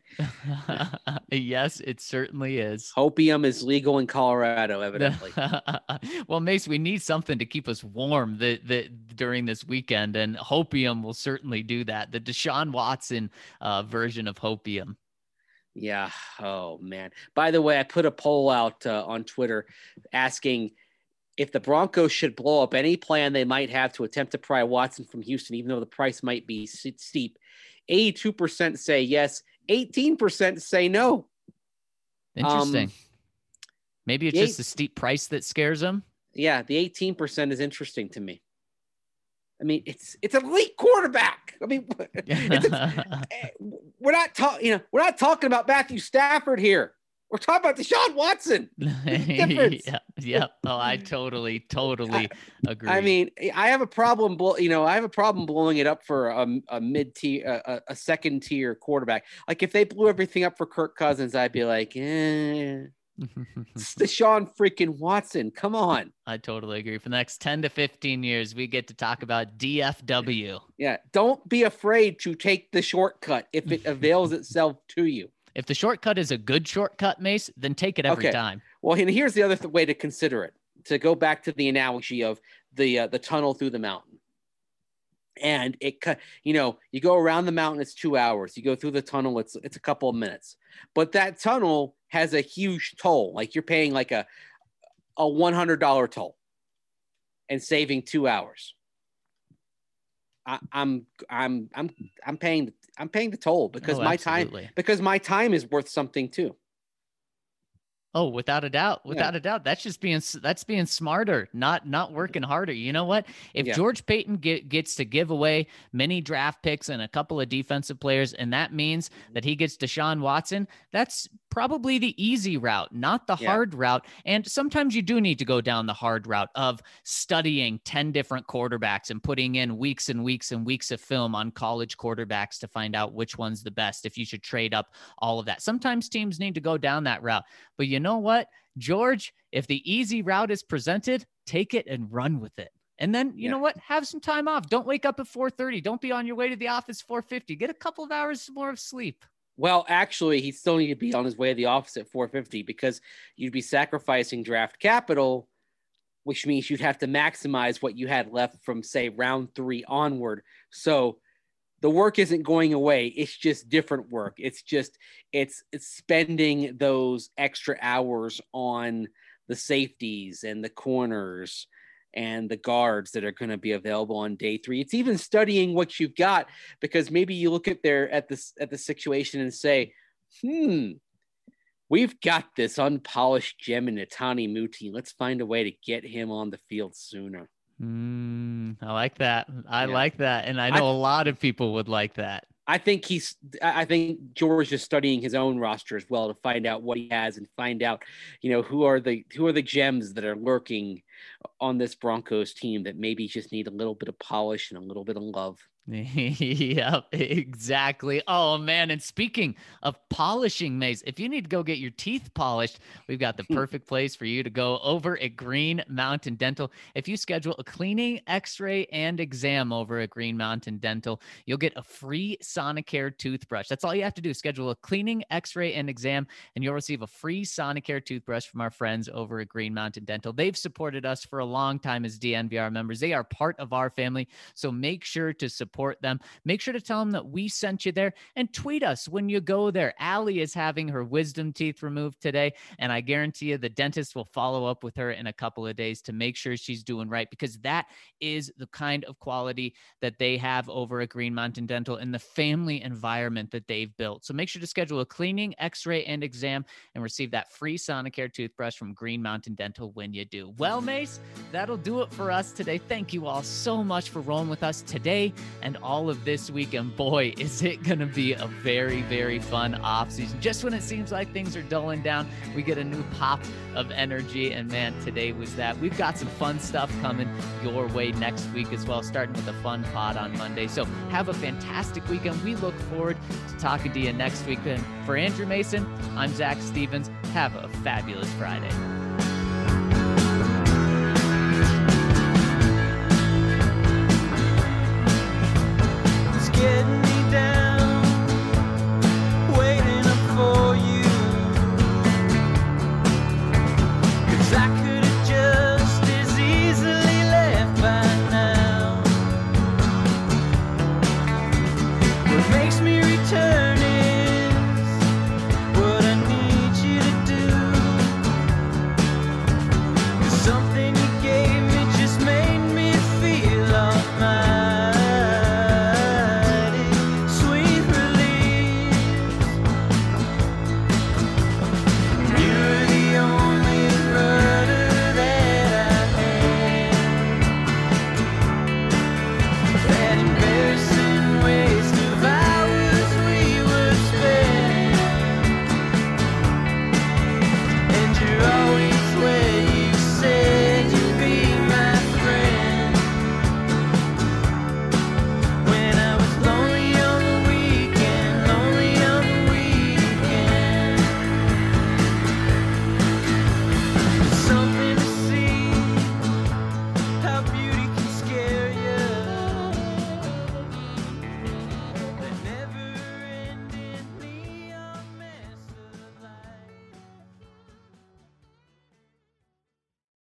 Yes, it certainly is. Hopium is legal in Colorado, evidently. Well, Mace, we need something to keep us warm during this weekend, and hopium will certainly do that. The Deshaun Watson version of hopium. Yeah. Oh, man. By the way, I put a poll out on Twitter asking if the Broncos should blow up any plan they might have to attempt to pry Watson from Houston, even though the price might be steep. 82% say yes. 18% say no. Interesting. Maybe it's just the steep price that scares them. Yeah, the 18% is interesting to me. I mean, it's an elite quarterback. I mean, we're not talking about Matthew Stafford here. We're talking about Deshaun Watson. Yeah. Oh, I totally agree. I mean, I have a problem blowing it up for a mid-tier, a second-tier quarterback. Like if they blew everything up for Kirk Cousins, I'd be like, It's Deshaun freaking Watson. Come on. I totally agree. For the next 10 to 15 years, we get to talk about DFW. Yeah. Don't be afraid to take the shortcut if it avails itself to you. If the shortcut is a good shortcut, Mace, then take it every time. Well, and here's the other way to consider it, to go back to the analogy of the tunnel through the mountain. And you go around the mountain, it's 2 hours. You go through the tunnel, it's a couple of minutes. But that tunnel has a huge toll. Like you're paying like a $100 toll and saving 2 hours. I'm paying the toll because my time is worth something too. Oh, without a doubt. That's being smarter, not working harder. You know what? If George Paton gets to give away many draft picks and a couple of defensive players, and that means that he gets Deshaun Watson, that's probably the easy route, not the hard route. And sometimes you do need to go down the hard route of studying 10 different quarterbacks and putting in weeks and weeks and weeks of film on college quarterbacks to find out which one's the best, if you should trade up, all of that. Sometimes teams need to go down that route. But you know what, George, if the easy route is presented, take it and run with it. And then, you know what, have some time off. Don't wake up at 4:30. Don't be on your way to the office 4:50. Get a couple of hours more of sleep. Well, actually, he still need to be on his way to the office at 4:50 because you'd be sacrificing draft capital, which means you'd have to maximize what you had left from, say, round 3 onward. So the work isn't going away. It's just different work. It's spending those extra hours on the safeties and the corners and the guards that are going to be available on day 3. It's even studying what you've got, because maybe you look at the situation and say, we've got this unpolished gem in Netani Muti. Let's find a way to get him on the field sooner. I like that. I like that. And I know a lot of people would like that. I think George is studying his own roster as well to find out what he has and find out, who are the gems that are lurking on this Broncos team that maybe just need a little bit of polish and a little bit of love. Yep, exactly. Oh man, and speaking of polishing, Mace, if you need to go get your teeth polished, we've got the perfect place for you to go over at Green Mountain Dental. If you schedule a cleaning, x-ray, and exam over at Green Mountain Dental, you'll get a free Sonicare toothbrush. That's all you have to do. Schedule a cleaning, x-ray, and exam, and you'll receive a free Sonicare toothbrush from our friends over at Green Mountain Dental. They've supported us for a long time as DNVR members. They are part of our family, so make sure to support them. Make sure to tell them that we sent you there, and tweet us when you go there. Allie is having her wisdom teeth removed today, and I guarantee you the dentist will follow up with her in a couple of days to make sure she's doing right, because that is the kind of quality that they have over at Green Mountain Dental and the family environment that they've built. So make sure to schedule a cleaning, x-ray, and exam and receive that free Sonicare toothbrush from Green Mountain Dental when you do. Well, Mace, that'll do it for us today. Thank you all so much for rolling with us today and all of this week. And boy, is it going to be a very, very fun off season. Just when it seems like things are dulling down, we get a new pop of energy. And man, today was that. We've got some fun stuff coming your way next week as well, starting with a fun pod on Monday. So have a fantastic weekend. We look forward to talking to you next week. And for Andrew Mason, I'm Zach Stevens. Have a fabulous Friday.